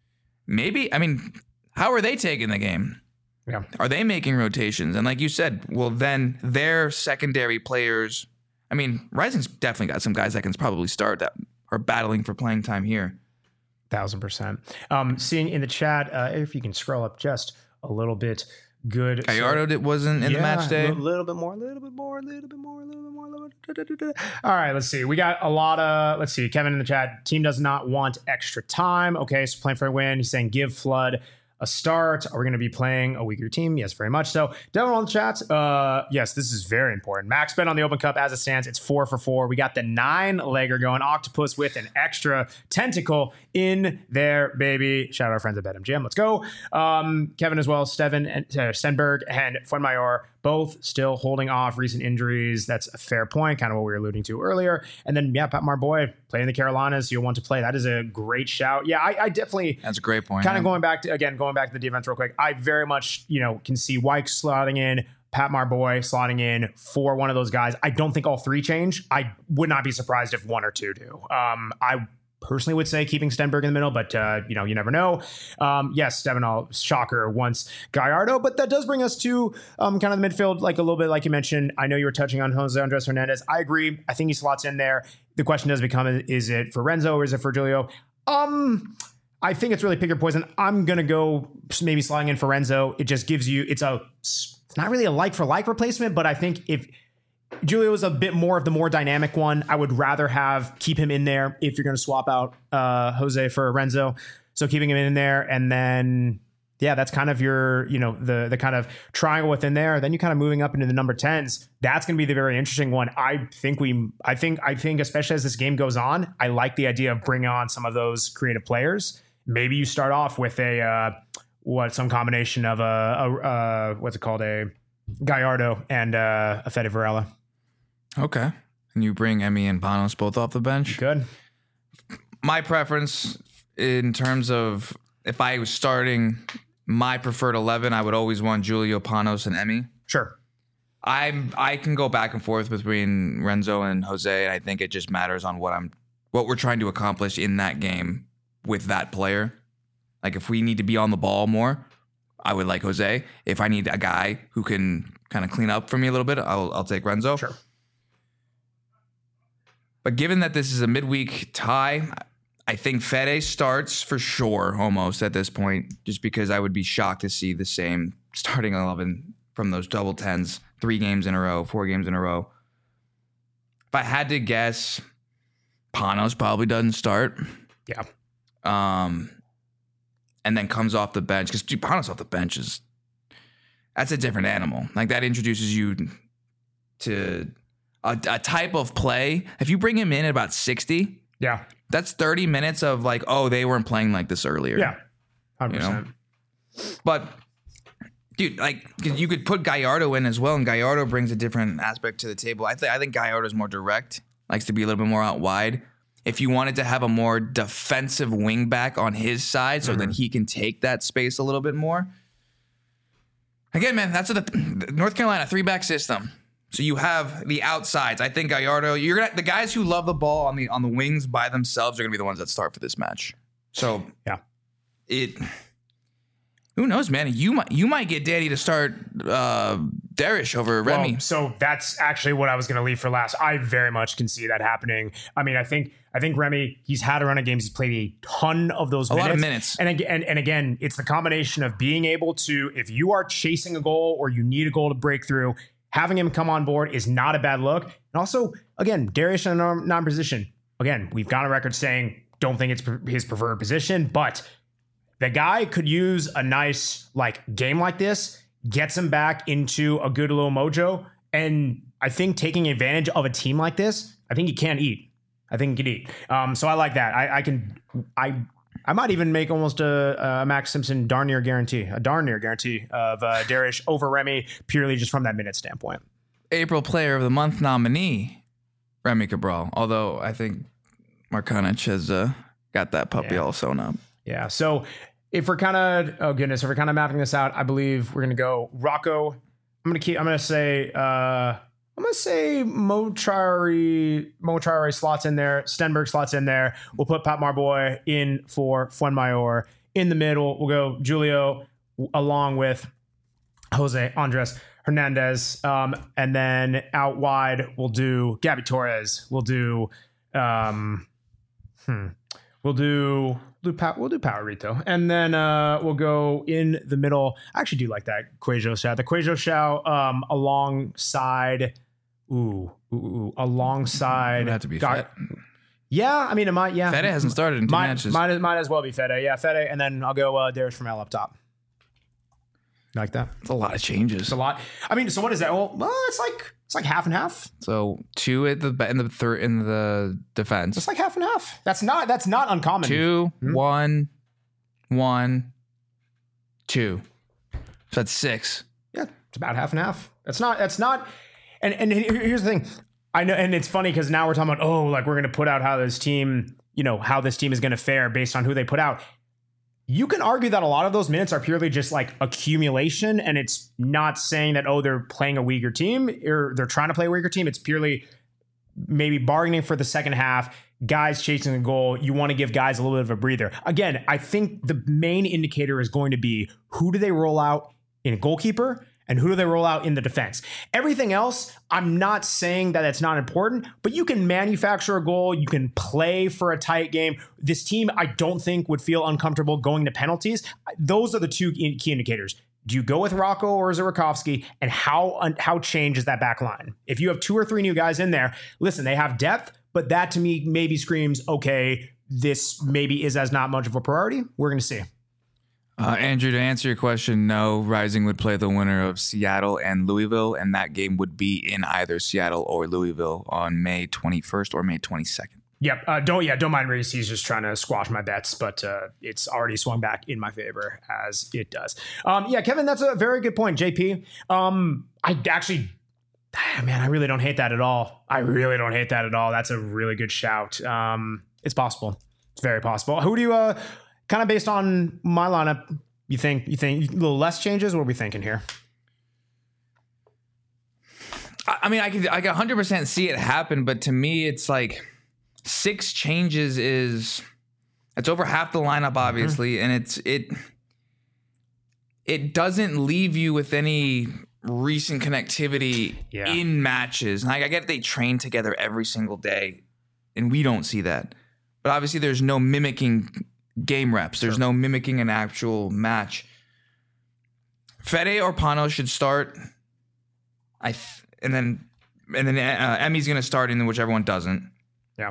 maybe, I mean, how are they taking the game? Yeah. Are they making rotations? And like you said, well, then their secondary players. I mean, Rising's definitely got some guys that can probably start that are battling for playing time here. Thousand percent. Um, seeing in the chat, uh, if you can scroll up just a little bit, good. Gallardo so, wasn't in yeah, the match day. A little bit more, a little bit more, a little bit more, a little bit more. Little bit, da, da, da, da. All right, let's see. We got a lot of. Let's see. Kevin in the chat. Team does not want extra time. Okay, so playing for a win. He's saying give Flood a start. Are we going to be playing a weaker team? Yes, very much so. Devin on the chat. Uh, yes, this is very important. Max bet on the Open Cup as it stands. It's four for four. We got the nine legger going. Octopus with an extra tentacle in there, baby. Shout out our friends at BetMGM. Let's go. Um, Kevin as well. Steven and uh, Stenberg and Fuenmayor both still holding off recent injuries. That's a fair point, kind of what we were alluding to earlier. And then, yeah, Pat Marboy playing in the Carolinas. You'll want to play. That is a great shout. Yeah, I, I definitely. That's a great point. Kind of yeah. going back to, again, going back to the defense real quick. I very much, you know, can see Wyke slotting in, Pat Marboy slotting in for one of those guys. I don't think all three change. I would not be surprised if one or two do. Um, I personally would say keeping Stenberg in the middle, but uh, you know, you never know. Um, yes, Stevenall, shocker, wants Gallardo, but that does bring us to um, kind of the midfield, like a little bit like you mentioned. I know you were touching on Jose Andres Hernandez. I agree. I think he slots in there. The question does become, is it for Renzo or is it for Julio? Um, I think it's really pick your poison. I'm going to go maybe slotting in for Renzo. It just gives you, it's a, it's not really a like for like replacement, but I think if Julio is a bit more of the more dynamic one, I would rather have keep him in there if you're going to swap out uh, Jose for Renzo. So keeping him in there, and then yeah, that's kind of your, you know, the the kind of triangle within there. Then you kind of moving up into the number tens. That's going to be the very interesting one. I think we, I think, I think especially as this game goes on, I like the idea of bringing on some of those creative players. Maybe you start off with a uh, what some combination of a, a uh, what's it called, a Gallardo and uh, a Fede Varela. Okay. And you bring Emmy and Panos both off the bench? Good. My preference in terms of if I was starting my preferred eleven, I would always want Julio, Panos, and Emmy. Sure. I'm I can go back and forth between Renzo and Jose, and I think it just matters on what I'm what we're trying to accomplish in that game with that player. Like if we need to be on the ball more, I would like Jose. If I need a guy who can kind of clean up for me a little bit, I'll I'll take Renzo. Sure. But given that this is a midweek tie, I think Fede starts for sure almost at this point, just because I would be shocked to see the same starting eleven from those double tens, three games in a row, four games in a row. If I had to guess, Panos probably doesn't start. Yeah. Um, and then comes off the bench, because Panos off the bench is, that's a different animal. Like that introduces you to a, a type of play. If you bring him in at about sixty, Yeah. that's thirty minutes of like, oh, they weren't playing like this earlier. Yeah. one hundred percent. You know? But, dude, like, 'cause you could put Gallardo in as well, and Gallardo brings a different aspect to the table. I, th- I think Gallardo's more direct, likes to be a little bit more out wide. If you wanted to have a more defensive wing back on his side so Mm-hmm. that he can take that space a little bit more. Again, man, that's what the North Carolina three-back system. So you have the outsides. I think Gallardo, you're gonna the guys who love the ball on the on the wings by themselves are gonna be the ones that start for this match. So Yeah. it who knows, man? You might you might get Danny to start uh Darish over Remy. Well, so that's actually what I was going to leave for last. I very much can see that happening. I mean, I think I think Remy, he's had a run of games. He's played a ton of those A minutes. lot of minutes. And again, and, and again, it's the combination of being able to, if you are chasing a goal or you need a goal to break through, having him come on board is not a bad look. And also, again, Darius in a non-position. Again, we've got a record saying don't think it's his preferred position, but the guy could use a nice like game like this, gets him back into a good little mojo. And I think taking advantage of a team like this, I think he can eat. I think he can eat. Um, so I like that. I, I can, I, I might even make almost a, a Max Simpson darn near guarantee, a darn near guarantee of uh, Darish over Remy, purely just from that minute standpoint. April Player of the Month nominee, Remy Cabral. Although I think Markanic has uh, got that puppy Yeah. all sewn up. Yeah. So if we're kind of, oh goodness, if we're kind of mapping this out, I believe we're going to go Rocco. I'm going to keep, I'm going to say, uh, I'm going to say Mochari, Mochari slots in there. Stenberg slots in there. We'll put Pat Marboy in for Fuenmayor. In the middle, we'll go Julio along with Jose Andres Hernandez. Um, and then out wide, we'll do Gabby Torres. We'll do, um, hmm, we'll do, we'll do, we'll do Powerito. And then uh, we'll go in the middle. I actually do like that Quajo Shao. The Quajo Shao um, alongside, ooh, ooh, ooh, alongside. It would have to be Gar- Fed. Yeah, I mean, it might, yeah. Fede hasn't started in two might, matches. Might, might as well be Fede. Yeah, Fede. And then I'll go uh, Darius from Al up top. Like that? It's a lot of changes. It's a lot. I mean, so what is that? Well, well it's like it's like half and half. So two at the in the third in the defense. It's like half and half. That's not that's not uncommon. Two, Hmm? one, one, two. So that's six. Yeah, it's about half and half. That's not that's not and and here- here's the thing. I know, and it's funny because now we're talking about, oh, like we're gonna put out how this team, you know, how this team is gonna fare based on who they put out. You can argue that a lot of those minutes are purely just like accumulation, and it's not saying that, oh, they're playing a weaker team or they're trying to play a weaker team. It's purely maybe bargaining for the second half, guys chasing the goal. You want to give guys a little bit of a breather. Again, I think the main indicator is going to be who do they roll out in a goalkeeper and who do they roll out in the defense. Everything else, I'm not saying that it's not important, but you can manufacture a goal. You can play for a tight game. This team, I don't think, would feel uncomfortable going to penalties. Those are the two key indicators. Do you go with Rocco or is it Rakowski? And how how changed is that back line? If you have two or three new guys in there, listen, they have depth, but that to me maybe screams, okay, this maybe is as not much of a priority. We're going to see. Uh, Andrew, to answer your question, no. Rising would play the winner of Seattle and Louisville, and that game would be in either Seattle or Louisville on May twenty-first or May twenty-second. Yep. Uh, don't yeah. Don't mind Reese. He's just trying to squash my bets, but uh, it's already swung back in my favor as it does. Um, yeah, Kevin, that's a very good point. J P. Um, I actually, man, I really don't hate that at all. I really don't hate that at all. That's a really good shout. Um, it's possible. It's very possible. Who do you uh, kind of based on my lineup? You think you think a little less changes? What are we thinking here? I, I mean, I could I can one hundred percent see it happen, but to me, it's like six changes is it's over half the lineup, obviously, mm-hmm. and it's it it doesn't leave you with any recent connectivity yeah. in matches. Like I get they train together every single day, and we don't see that. But obviously, there's no mimicking game reps. There's sure. no mimicking an actual match. Fede or Pano should start. I th- and then and then uh, Emmy's gonna start, and then whichever one doesn't. Yeah.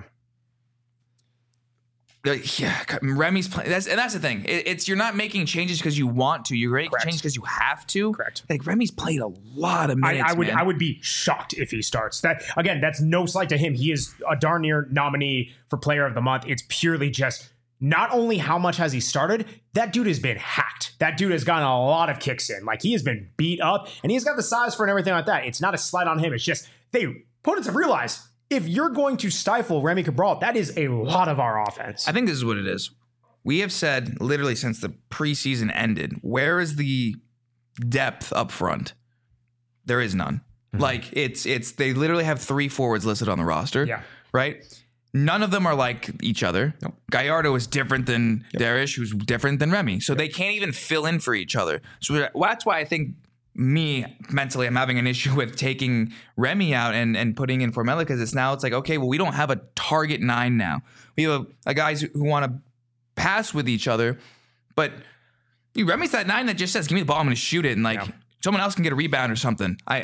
Yeah, Remy's playing. That's and that's the thing. It, it's you're not making changes because you want to. You're making changes because you have to. Correct. Like Remy's played a lot of minutes. I, I would man. I would be shocked if he starts. That again, that's no slight to him. He is a darn near nominee for Player of the Month. It's purely just not only how much has he started. That dude has been hacked. That dude has gotten a lot of kicks in. Like he has been beat up, and he's got the size for and everything like that. It's not a slight on him. It's just they opponents have realized. If you're going to stifle Remy Cabral, that is a lot of our offense. I think this is what it is. We have said literally since the preseason ended, where is the depth up front? There is none. Mm-hmm. Like it's it's they literally have three forwards listed on the roster. Yeah. Right? None of them are like each other. Nope. Gallardo is different than yep. Darish, who's different than Remy. So yep. they can't even fill in for each other. So that's why I think me mentally, I'm having an issue with taking Remy out and, and putting in Formella because it's now it's like, okay, well, we don't have a target nine now. We have a, a guys who want to pass with each other, but you Remy's that nine that just says, give me the ball, I'm going to shoot it. And like yeah. someone else can get a rebound or something. I,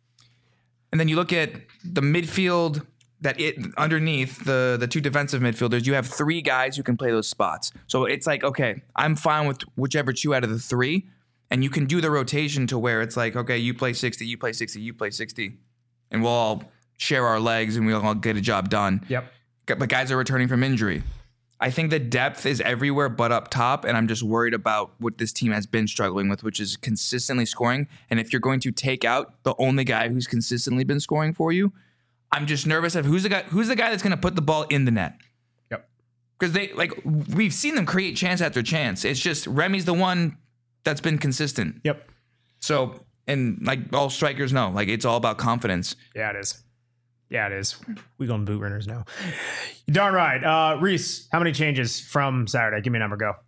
and then you look at the midfield that it underneath the, the two defensive midfielders, you have three guys who can play those spots. So it's like, okay, I'm fine with whichever two out of the three. And you can do the rotation to where it's like, okay, you play sixty, you play sixty, you play sixty. And we'll all share our legs and we'll all get a job done. Yep. But guys are returning from injury. I think the depth is everywhere but up top. And I'm just worried about what this team has been struggling with, which is consistently scoring. And if you're going to take out the only guy who's consistently been scoring for you, I'm just nervous of who's the guy, who's the guy that's going to put the ball in the net. Yep. Because they like we've seen them create chance after chance. It's just Remy's the one that's been consistent. Yep. So, and like all strikers know, like it's all about confidence. Yeah, it is. Yeah, it is. We going boot runners now. You're darn right. Uh, Reese, how many changes from Saturday? Give me a number. Go.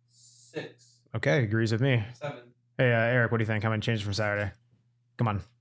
Six. Okay, agrees with me. Seven. Hey, uh, Eric, what do you think? How many changes from Saturday? Come on.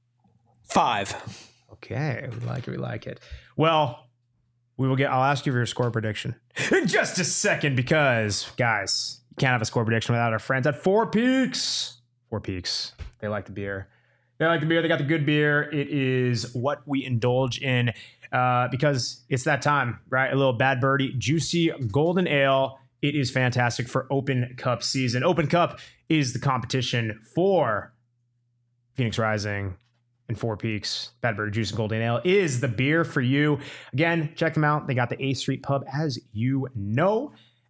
Five. Okay, we like it. We like it. Well, we will get. I'll ask you for your score prediction in just a second because, guys, you can't have a score prediction without our friends at Four Peaks. Four Peaks. They like the beer. They like the beer. They got the good beer. It is what we indulge in uh, because it's that time, right? A little Bad Birdie, juicy golden ale. It is fantastic for Open Cup season. Open Cup is the competition for Phoenix Rising and Four Peaks. Bad Birdie, juicy golden ale is the beer for you. Again, check them out. They got the eighth Street Pub, as you know.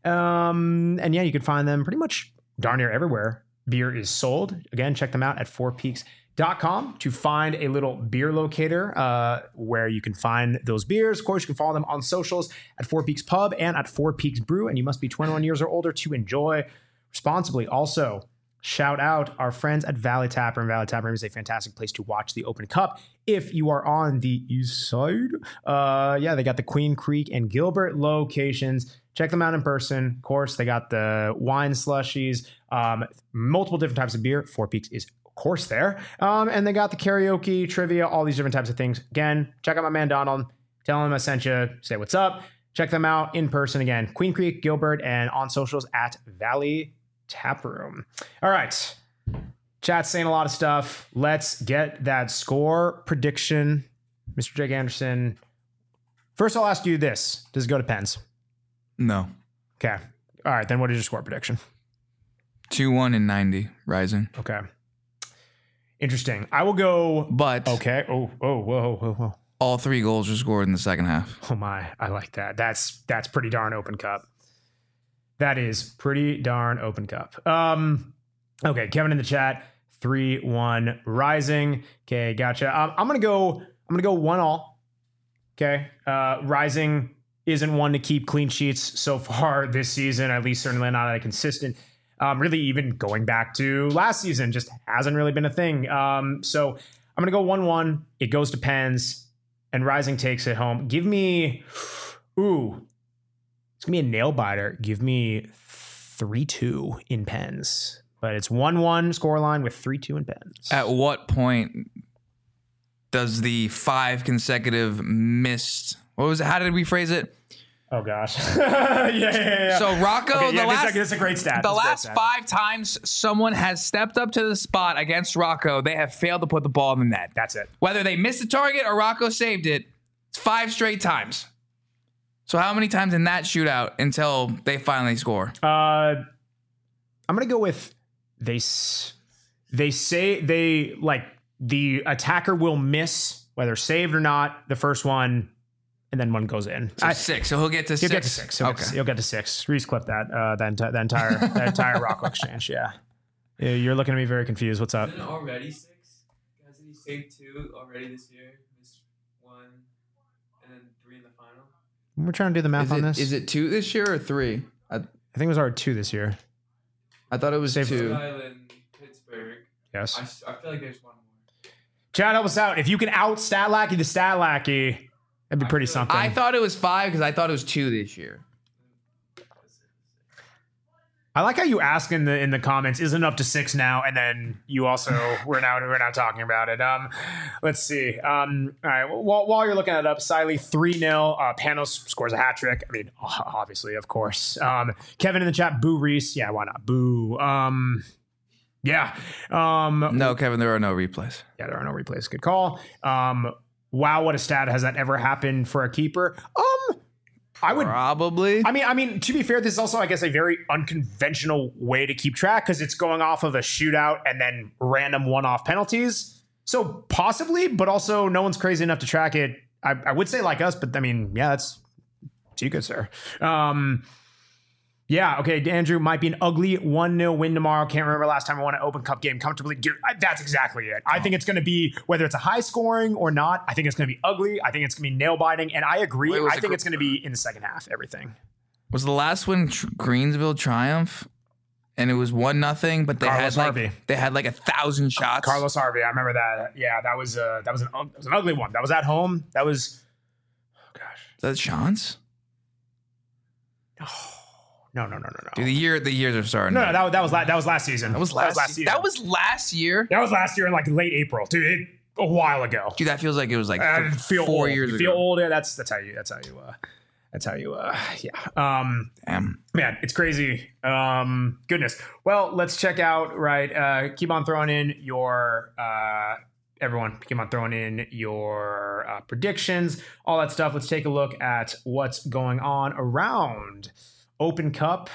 Um, and yeah, you can find them pretty much darn near everywhere beer is sold. Again, check them out at four peaks dot com to find a little beer locator uh, where you can find those beers. Of course, you can follow them on socials at Four Peaks Pub and at Four Peaks Brew, and you must be twenty-one years or older to enjoy responsibly. Also, shout out our friends at Valley Tap Room. Valley Tap Room is a fantastic place to watch the Open Cup if you are on the east side. Uh, yeah, they got the Queen Creek and Gilbert locations. Check them out in person. Of course, they got the wine slushies, um, multiple different types of beer. Four Peaks is, of course, there. Um, and they got the karaoke, trivia, all these different types of things. Again, check out my man Donald. Tell him I sent you. Say what's up. Check them out in person. Again, Queen Creek, Gilbert, and on socials at Valley Tap Room. All right. Chat's saying a lot of stuff. Let's get that score prediction. Mister Jake Anderson. First, I'll ask you this. Does it go to Pens? No. Okay. All right. Then what is your score prediction? two one and ninety Rising. Okay. Interesting. I will go. But. Okay. Oh, oh, whoa, whoa, whoa. All three goals were scored in the second half. Oh, my. I like that. That's that's pretty darn Open Cup. That is pretty darn Open Cup. Um. Okay. Kevin in the chat. three one Rising. Okay. Gotcha. Um, I'm going to go. I'm going to go one all. Okay. Uh, Rising isn't one to keep clean sheets so far this season, at least certainly not at a consistent, um, really even going back to last season, just hasn't really been a thing. Um, so I'm going to go one one. It goes to Pens, and Rising takes it home. Give me, Ooh, it's gonna be a nail biter. Give me three two in Pens, but it's one one scoreline with three two in Pens. At what point does the five consecutive missed? What was it? How did we phrase it? Oh gosh. yeah, yeah, yeah. So Rocco, Okay, the yeah, last, this, is a, this is a great stat. the This is a great last stat. five times someone has stepped up to the spot against Rocco, they have failed to put the ball in the net. That's it. Whether they missed the target or Rocco saved it, it's five straight times. So how many times in that shootout until they finally score? Uh, I'm gonna go with they. s- They say they like the attacker will miss whether saved or not the first one, and then one goes in. So I, six. So he'll get to He'll six. get to six. He'll, Okay. get, to, he'll get to six. Reese clip that. Uh, that, enti- that entire that entire Rocco exchange. Yeah. Yeah, you're looking at me very confused. What's up? Isn't it already six? Hasn't he saved two already this year? Missed one, and then three in the final. We're trying to do the math Is on it, this. is it two this year or three? I, I think it was already two this year. I thought it was Save- two. Rhode Island, Pittsburgh. Yes. I, s- I feel like there's one more. Chad, help us out. If you can out stat lackey the stat lackey, that'd be I pretty feel like- something. I thought it was five because I thought it was two this year. I like how you ask in the in the comments, isn't it up to six now? And then you also we're now we're now talking about it. Um, let's see. Um, all right. While, while you're looking it up, Siley three nil. Uh, Panos scores a hat trick. I mean, obviously, of course. Um, Kevin in the chat, boo Reese. Yeah, why not? Boo. Um, yeah. Um, No, Kevin, there are no replays. yeah, there are no replays. Good call. Um, wow, what a stat. Has that ever happened for a keeper? Um, I would. Probably. I mean, I mean, to be fair, this is also, I guess, a very unconventional way to keep track because it's going off of a shootout and then random one-off penalties. So possibly, but also no one's crazy enough to track it. I, I would say like us, but I mean, yeah, that's too good, sir. Um, yeah, okay, Andrew, might be an ugly one nil win tomorrow. Can't remember last time I won an Open Cup game comfortably. Dude, I, that's exactly it. I think it's going to be, whether it's a high scoring or not, I think it's going to be ugly. I think it's going to be nail biting. And I agree. Wait, was I it think gr- it's going to be in the second half, everything. Was the last one tr- Greensville Triumph? And it was one nothing, but they Carlos had like Harvey. they had like a thousand shots. Carlos Harvey, I remember that. Yeah, that was uh that was an that was an ugly one. That was at home. That was oh gosh. Is that Sean's? No, no, no, no, no. Dude, the year the years are starting. No, no, that, that was la- that was last season. that was last. season. That was last year. that was last year in like late April, dude. It, a while ago. Dude, that feels like it was like I th- feel four old. years you ago. feel old. Yeah, that's that's how you that's how you uh that's how you uh yeah. Um Damn. man, it's crazy. Um goodness. Well, let's check out, right? Uh keep on throwing in your uh everyone keep on throwing in your uh, predictions, all that stuff. Let's take a look at what's going on around Open Cup.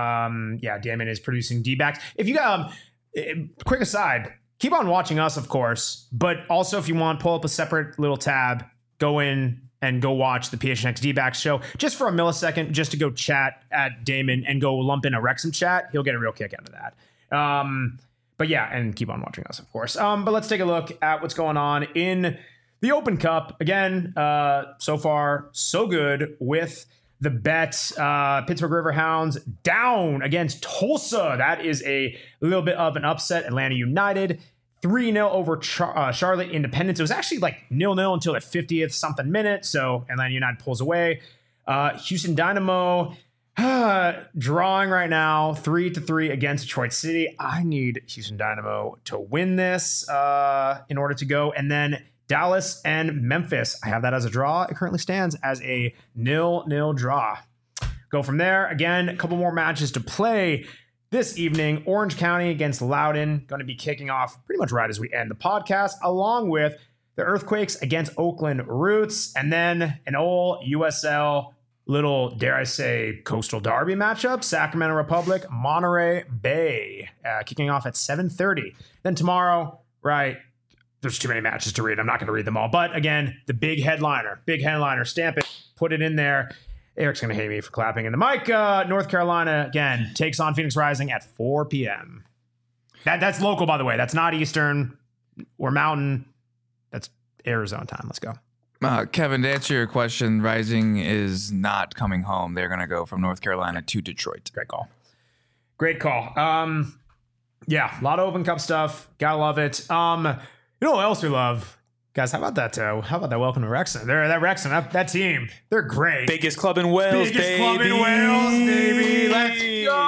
Um yeah, Damon is producing D-backs. If you got um eh, quick aside, keep on watching us, of course, but also if you want, pull up a separate little tab, go in and go watch the P H N X D-backs show just for a millisecond, just to go chat at Damon and go lump in a Wrexham chat. He'll get a real kick out of that. Um, but yeah, and keep on watching us, of course. Um, but let's take a look at what's going on in the Open Cup. Again, uh, so far, so good with the bets. Uh, Pittsburgh Riverhounds down against Tulsa. That is a little bit of an upset. Atlanta United three nil over Char- uh, Charlotte Independence. It was actually like nil nil until the fiftieth something minute. So Atlanta United pulls away. Uh, Houston Dynamo uh, drawing right now three to three against Detroit City. I need Houston Dynamo to win this uh, in order to go. And then Dallas and Memphis. I have that as a draw. It currently stands as a nil nil draw. Go from there. Again, a couple more matches to play this evening. Orange County against Loudoun, going to be kicking off pretty much right as we end the podcast, along with the Earthquakes against Oakland Roots, and then an old U S L little, dare I say, Coastal Derby matchup, Sacramento Republic, Monterey Bay, uh, kicking off at seven thirty. Then tomorrow, right, there's too many matches to read. I'm not going to read them all. But again, the big headliner, big headliner, stamp it, put it in there. Eric's going to hate me for clapping in the mic. Uh, North Carolina, again, takes on Phoenix Rising at four p.m. That, that's local, by the way. That's not Eastern or Mountain. That's Arizona time. Let's go. Uh, Kevin, to answer your question, Rising is not coming home. They're going to go from North Carolina to Detroit. Great call. Great call. Um, yeah, a lot of Open Cup stuff. Gotta love it. Um, you know what else we love? Guys, how about that? Uh, how about that? Welcome to Wrexham. They're that Wrexham, that, that team. They're great. Biggest club in Wales, Biggest baby. club in Wales, baby. Let's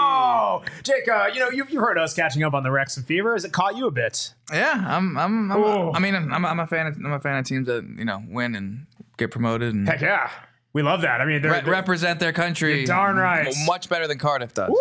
go, Jake. Uh, you know you've, you've heard us catching up on the Wrexham fever. Has it caught you a bit? Yeah, I'm. I'm. I'm Ooh. I mean, I'm, I'm a fan. Of, I'm a fan of teams that you know win and get promoted and Heck yeah, we love that. I mean, they're, re- they're represent their country. You're darn right. m- Much better than Cardiff does.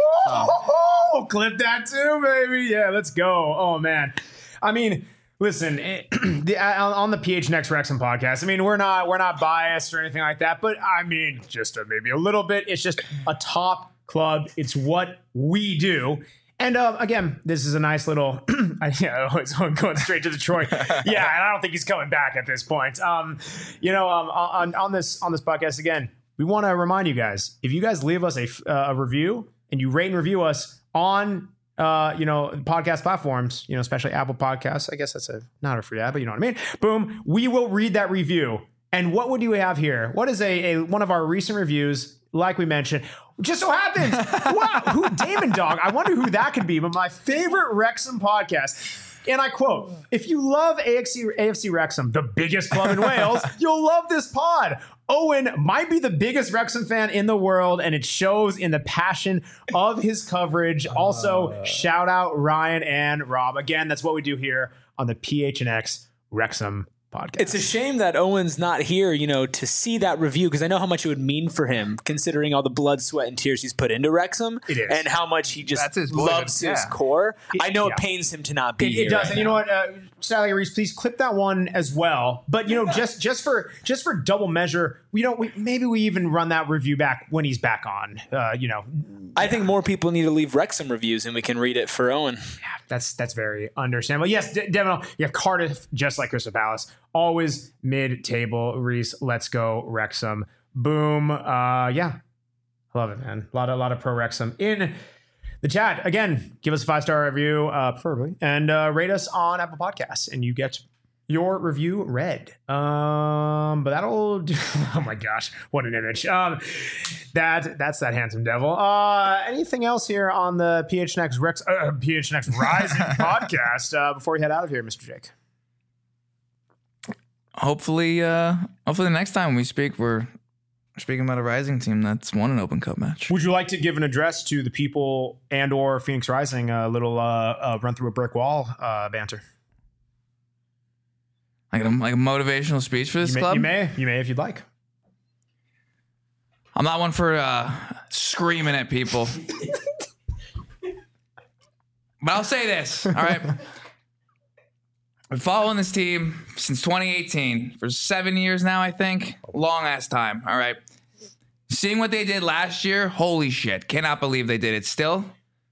Woo! Clip that too, baby. Yeah, let's go. Oh man, I mean. Listen, it, the, on the P H Next Wrexham podcast, I mean, we're not we're not biased or anything like that, but I mean, just a, maybe a little bit. It's just a top club. It's what we do. And uh, again, this is a nice little. I, yeah, it's going straight to Detroit. Yeah, and I don't think he's coming back at this point. Um, you know, um, on on this on this podcast again, we want to remind you guys: if you guys leave us a uh, a review and you rate and review us on. Uh, you know, podcast platforms, you know, especially Apple Podcasts. I guess that's a not a free ad, but you know what I mean. Boom, we will read that review. And what would you have here? What is a, a one of our recent reviews? Like we mentioned, just so happens, wow, who Damon Dog? I wonder who that could be. But my favorite Wrexham podcast. And I quote, if you love A F C, A F C Wrexham, the biggest club in Wales, you'll love this pod. Owen might be the biggest Wrexham fan in the world, and it shows in the passion of his coverage. Also, uh, shout out Ryan and Rob. Again, that's what we do here on the P H N X Wrexham podcast. It's a shame that Owen's not here, you know, to see that review, because I know how much it would mean for him, considering all the blood, sweat, and tears he's put into Wrexham, it is. And how much he just That's his loves boyhood. his Yeah. core. It, I know yeah. it pains him to not be It, here. it does, right and you know what, uh, Sally Reese, please clip that one as well. But you know, just just for just for double measure, we don't. We, maybe we even run that review back when he's back on. Uh, you know, I think more people need to leave Wrexham reviews, and we can read it for Owen. That's that's very understandable. Yes, De- Devin, you have Cardiff, just like Crystal Palace, always mid-table. Reese, let's go Wrexham. Boom. Uh, yeah, I love it, man. A lot of a lot of pro Wrexham in the chat. Again, give us a five star review, uh, preferably, and uh, rate us on Apple Podcasts, and you get your review read. Um, but that'll do. Oh my gosh, what an image. Um, that that's that handsome devil. Uh, anything else here on the P H N X Rex uh, P H N X Rising podcast uh, before we head out of here, Mister Jake? Hopefully, uh, hopefully the next time we speak, we're speaking about a Rising team that's won an Open Cup match. Would you like to give an address to the people and or Phoenix Rising? A little uh, uh, run through a brick wall uh, banter. Like a, like a motivational speech for this You may, club? you may, you may if you'd like. I'm not one for uh, screaming at people. But I'll say this, all right? I've been following this team since twenty eighteen, for seven years now, I think. Long ass time, all right? Seeing what they did last year, holy shit. Cannot believe they did it still.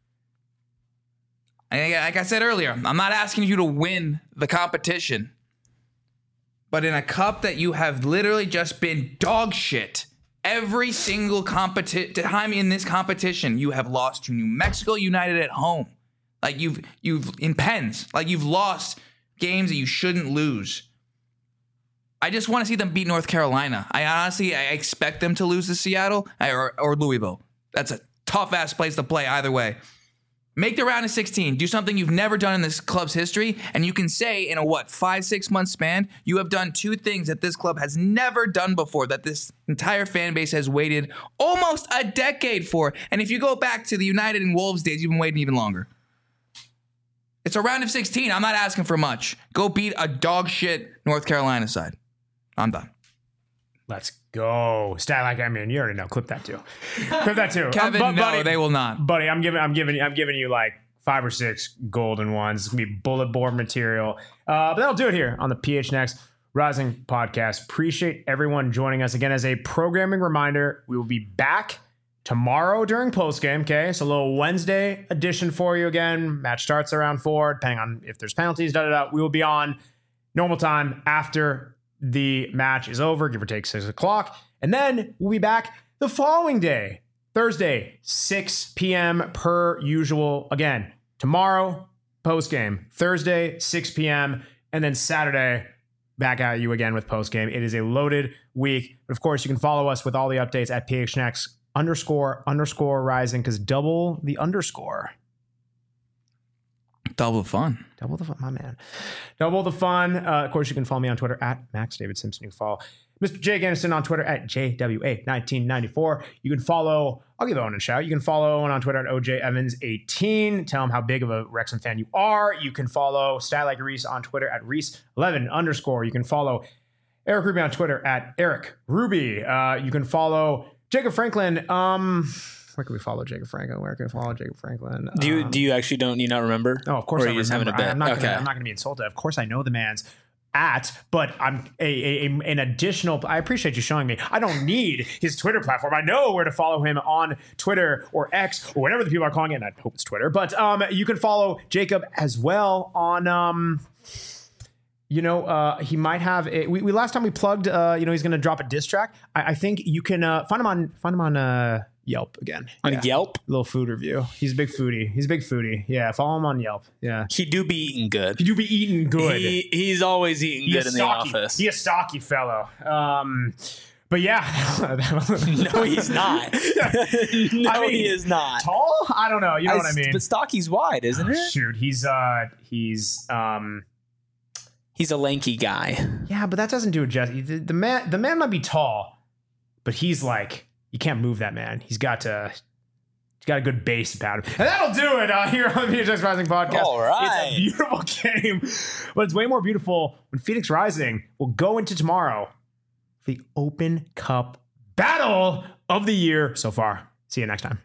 And like I said earlier, I'm not asking you to win the competition. But in a cup that you have literally just been dog shit, every single competi- time in this competition, you have lost to New Mexico United at home. Like you've, you've in pens, like you've lost games that you shouldn't lose. I just want to see them beat North Carolina. I honestly, I expect them to lose to Seattle or, or Louisville. That's a tough ass place to play either way. Make the round of sixteen. Do something you've never done in this club's history. And you can say in a, what, five, six month span, you have done two things that this club has never done before, that this entire fan base has waited almost a decade for. And if you go back to the United and Wolves days, you've been waiting even longer. It's a round of sixteen. I'm not asking for much. Go beat a dog shit North Carolina side. I'm done. Let's go. Stat like I mean, you already know. Clip that too. Clip that too. Kevin, Um, bu- no, buddy, they will not. buddy. I'm giving. I'm giving. I'm giving you like five or six golden ones. It's gonna be bullet board material. Uh, but that'll do it here on the P H N X Rising podcast. Appreciate everyone joining us again. As a programming reminder, we will be back tomorrow during postgame. Okay, so a little Wednesday edition for you again. Match starts around four, depending on if there's penalties. Da da da. We will be on normal time after the match is over, give or take six o'clock. And then we'll be back the following day, Thursday, six p.m. per usual. Again, tomorrow, post-game. Thursday, six p.m. And then Saturday, back at you again with post-game. It is a loaded week. But of course, you can follow us with all the updates at P H N X underscore underscore rising, because double the underscore. Double fun. Double the fun, my man. Double the fun. Uh, of course, you can follow me on Twitter at Max David Simpson. You can follow Mister Jake Anderson on Twitter at J W A nineteen ninety-four. You can follow, I'll give Owen a shout. You can follow Owen on Twitter at O J Evans eighteen. Tell him how big of a Wrexham fan you are. You can follow Stat Like Reese on Twitter at Reese eleven underscore. You can follow Eric Ruby on Twitter at Eric Ruby. Uh, you can follow Jacob Franklin. Um, where can we follow Jacob Franklin? Where can we follow Jacob Franklin? Do you Um, do you actually don't you not remember? Oh, of course Or I are you just remember. having a bet? I, am not Okay. gonna, I'm not going to be insulted. Of course I know the man's at, but I'm a, a, a an additional. I appreciate you showing me. I don't need his Twitter platform. I know where to follow him on Twitter or X or whatever the people are calling it. And I hope it's Twitter. But um, you can follow Jacob as well on um. You know, uh, he might have. A, we, we last time we plugged. Uh, you know, he's going to drop a diss track. I, I think you can uh, find him on find him on uh, Yelp again. On Yeah. Yelp? Little food review. He's a big foodie. He's a big foodie. Yeah, follow him on Yelp. Yeah, He do be eating good. he do be eating good. He, he's always eating He good a in the stocky, office. He a stocky fellow. Um, but yeah, No, he's not. no, I mean, he is not. tall. I don't know. You know what I mean? But Stocky's wide, isn't Oh, it? shoot, he's uh, he's um. He's a lanky guy. Yeah, but that doesn't do it justice. The, the man, the man might be tall, but he's like, you can't move that man. He's got to, he's got a good base about him, and that'll do it uh, here on the Phoenix Rising podcast. All right. It's a beautiful game, but it's way more beautiful when Phoenix Rising will go into tomorrow for the Open Cup battle of the year so far. See you next time.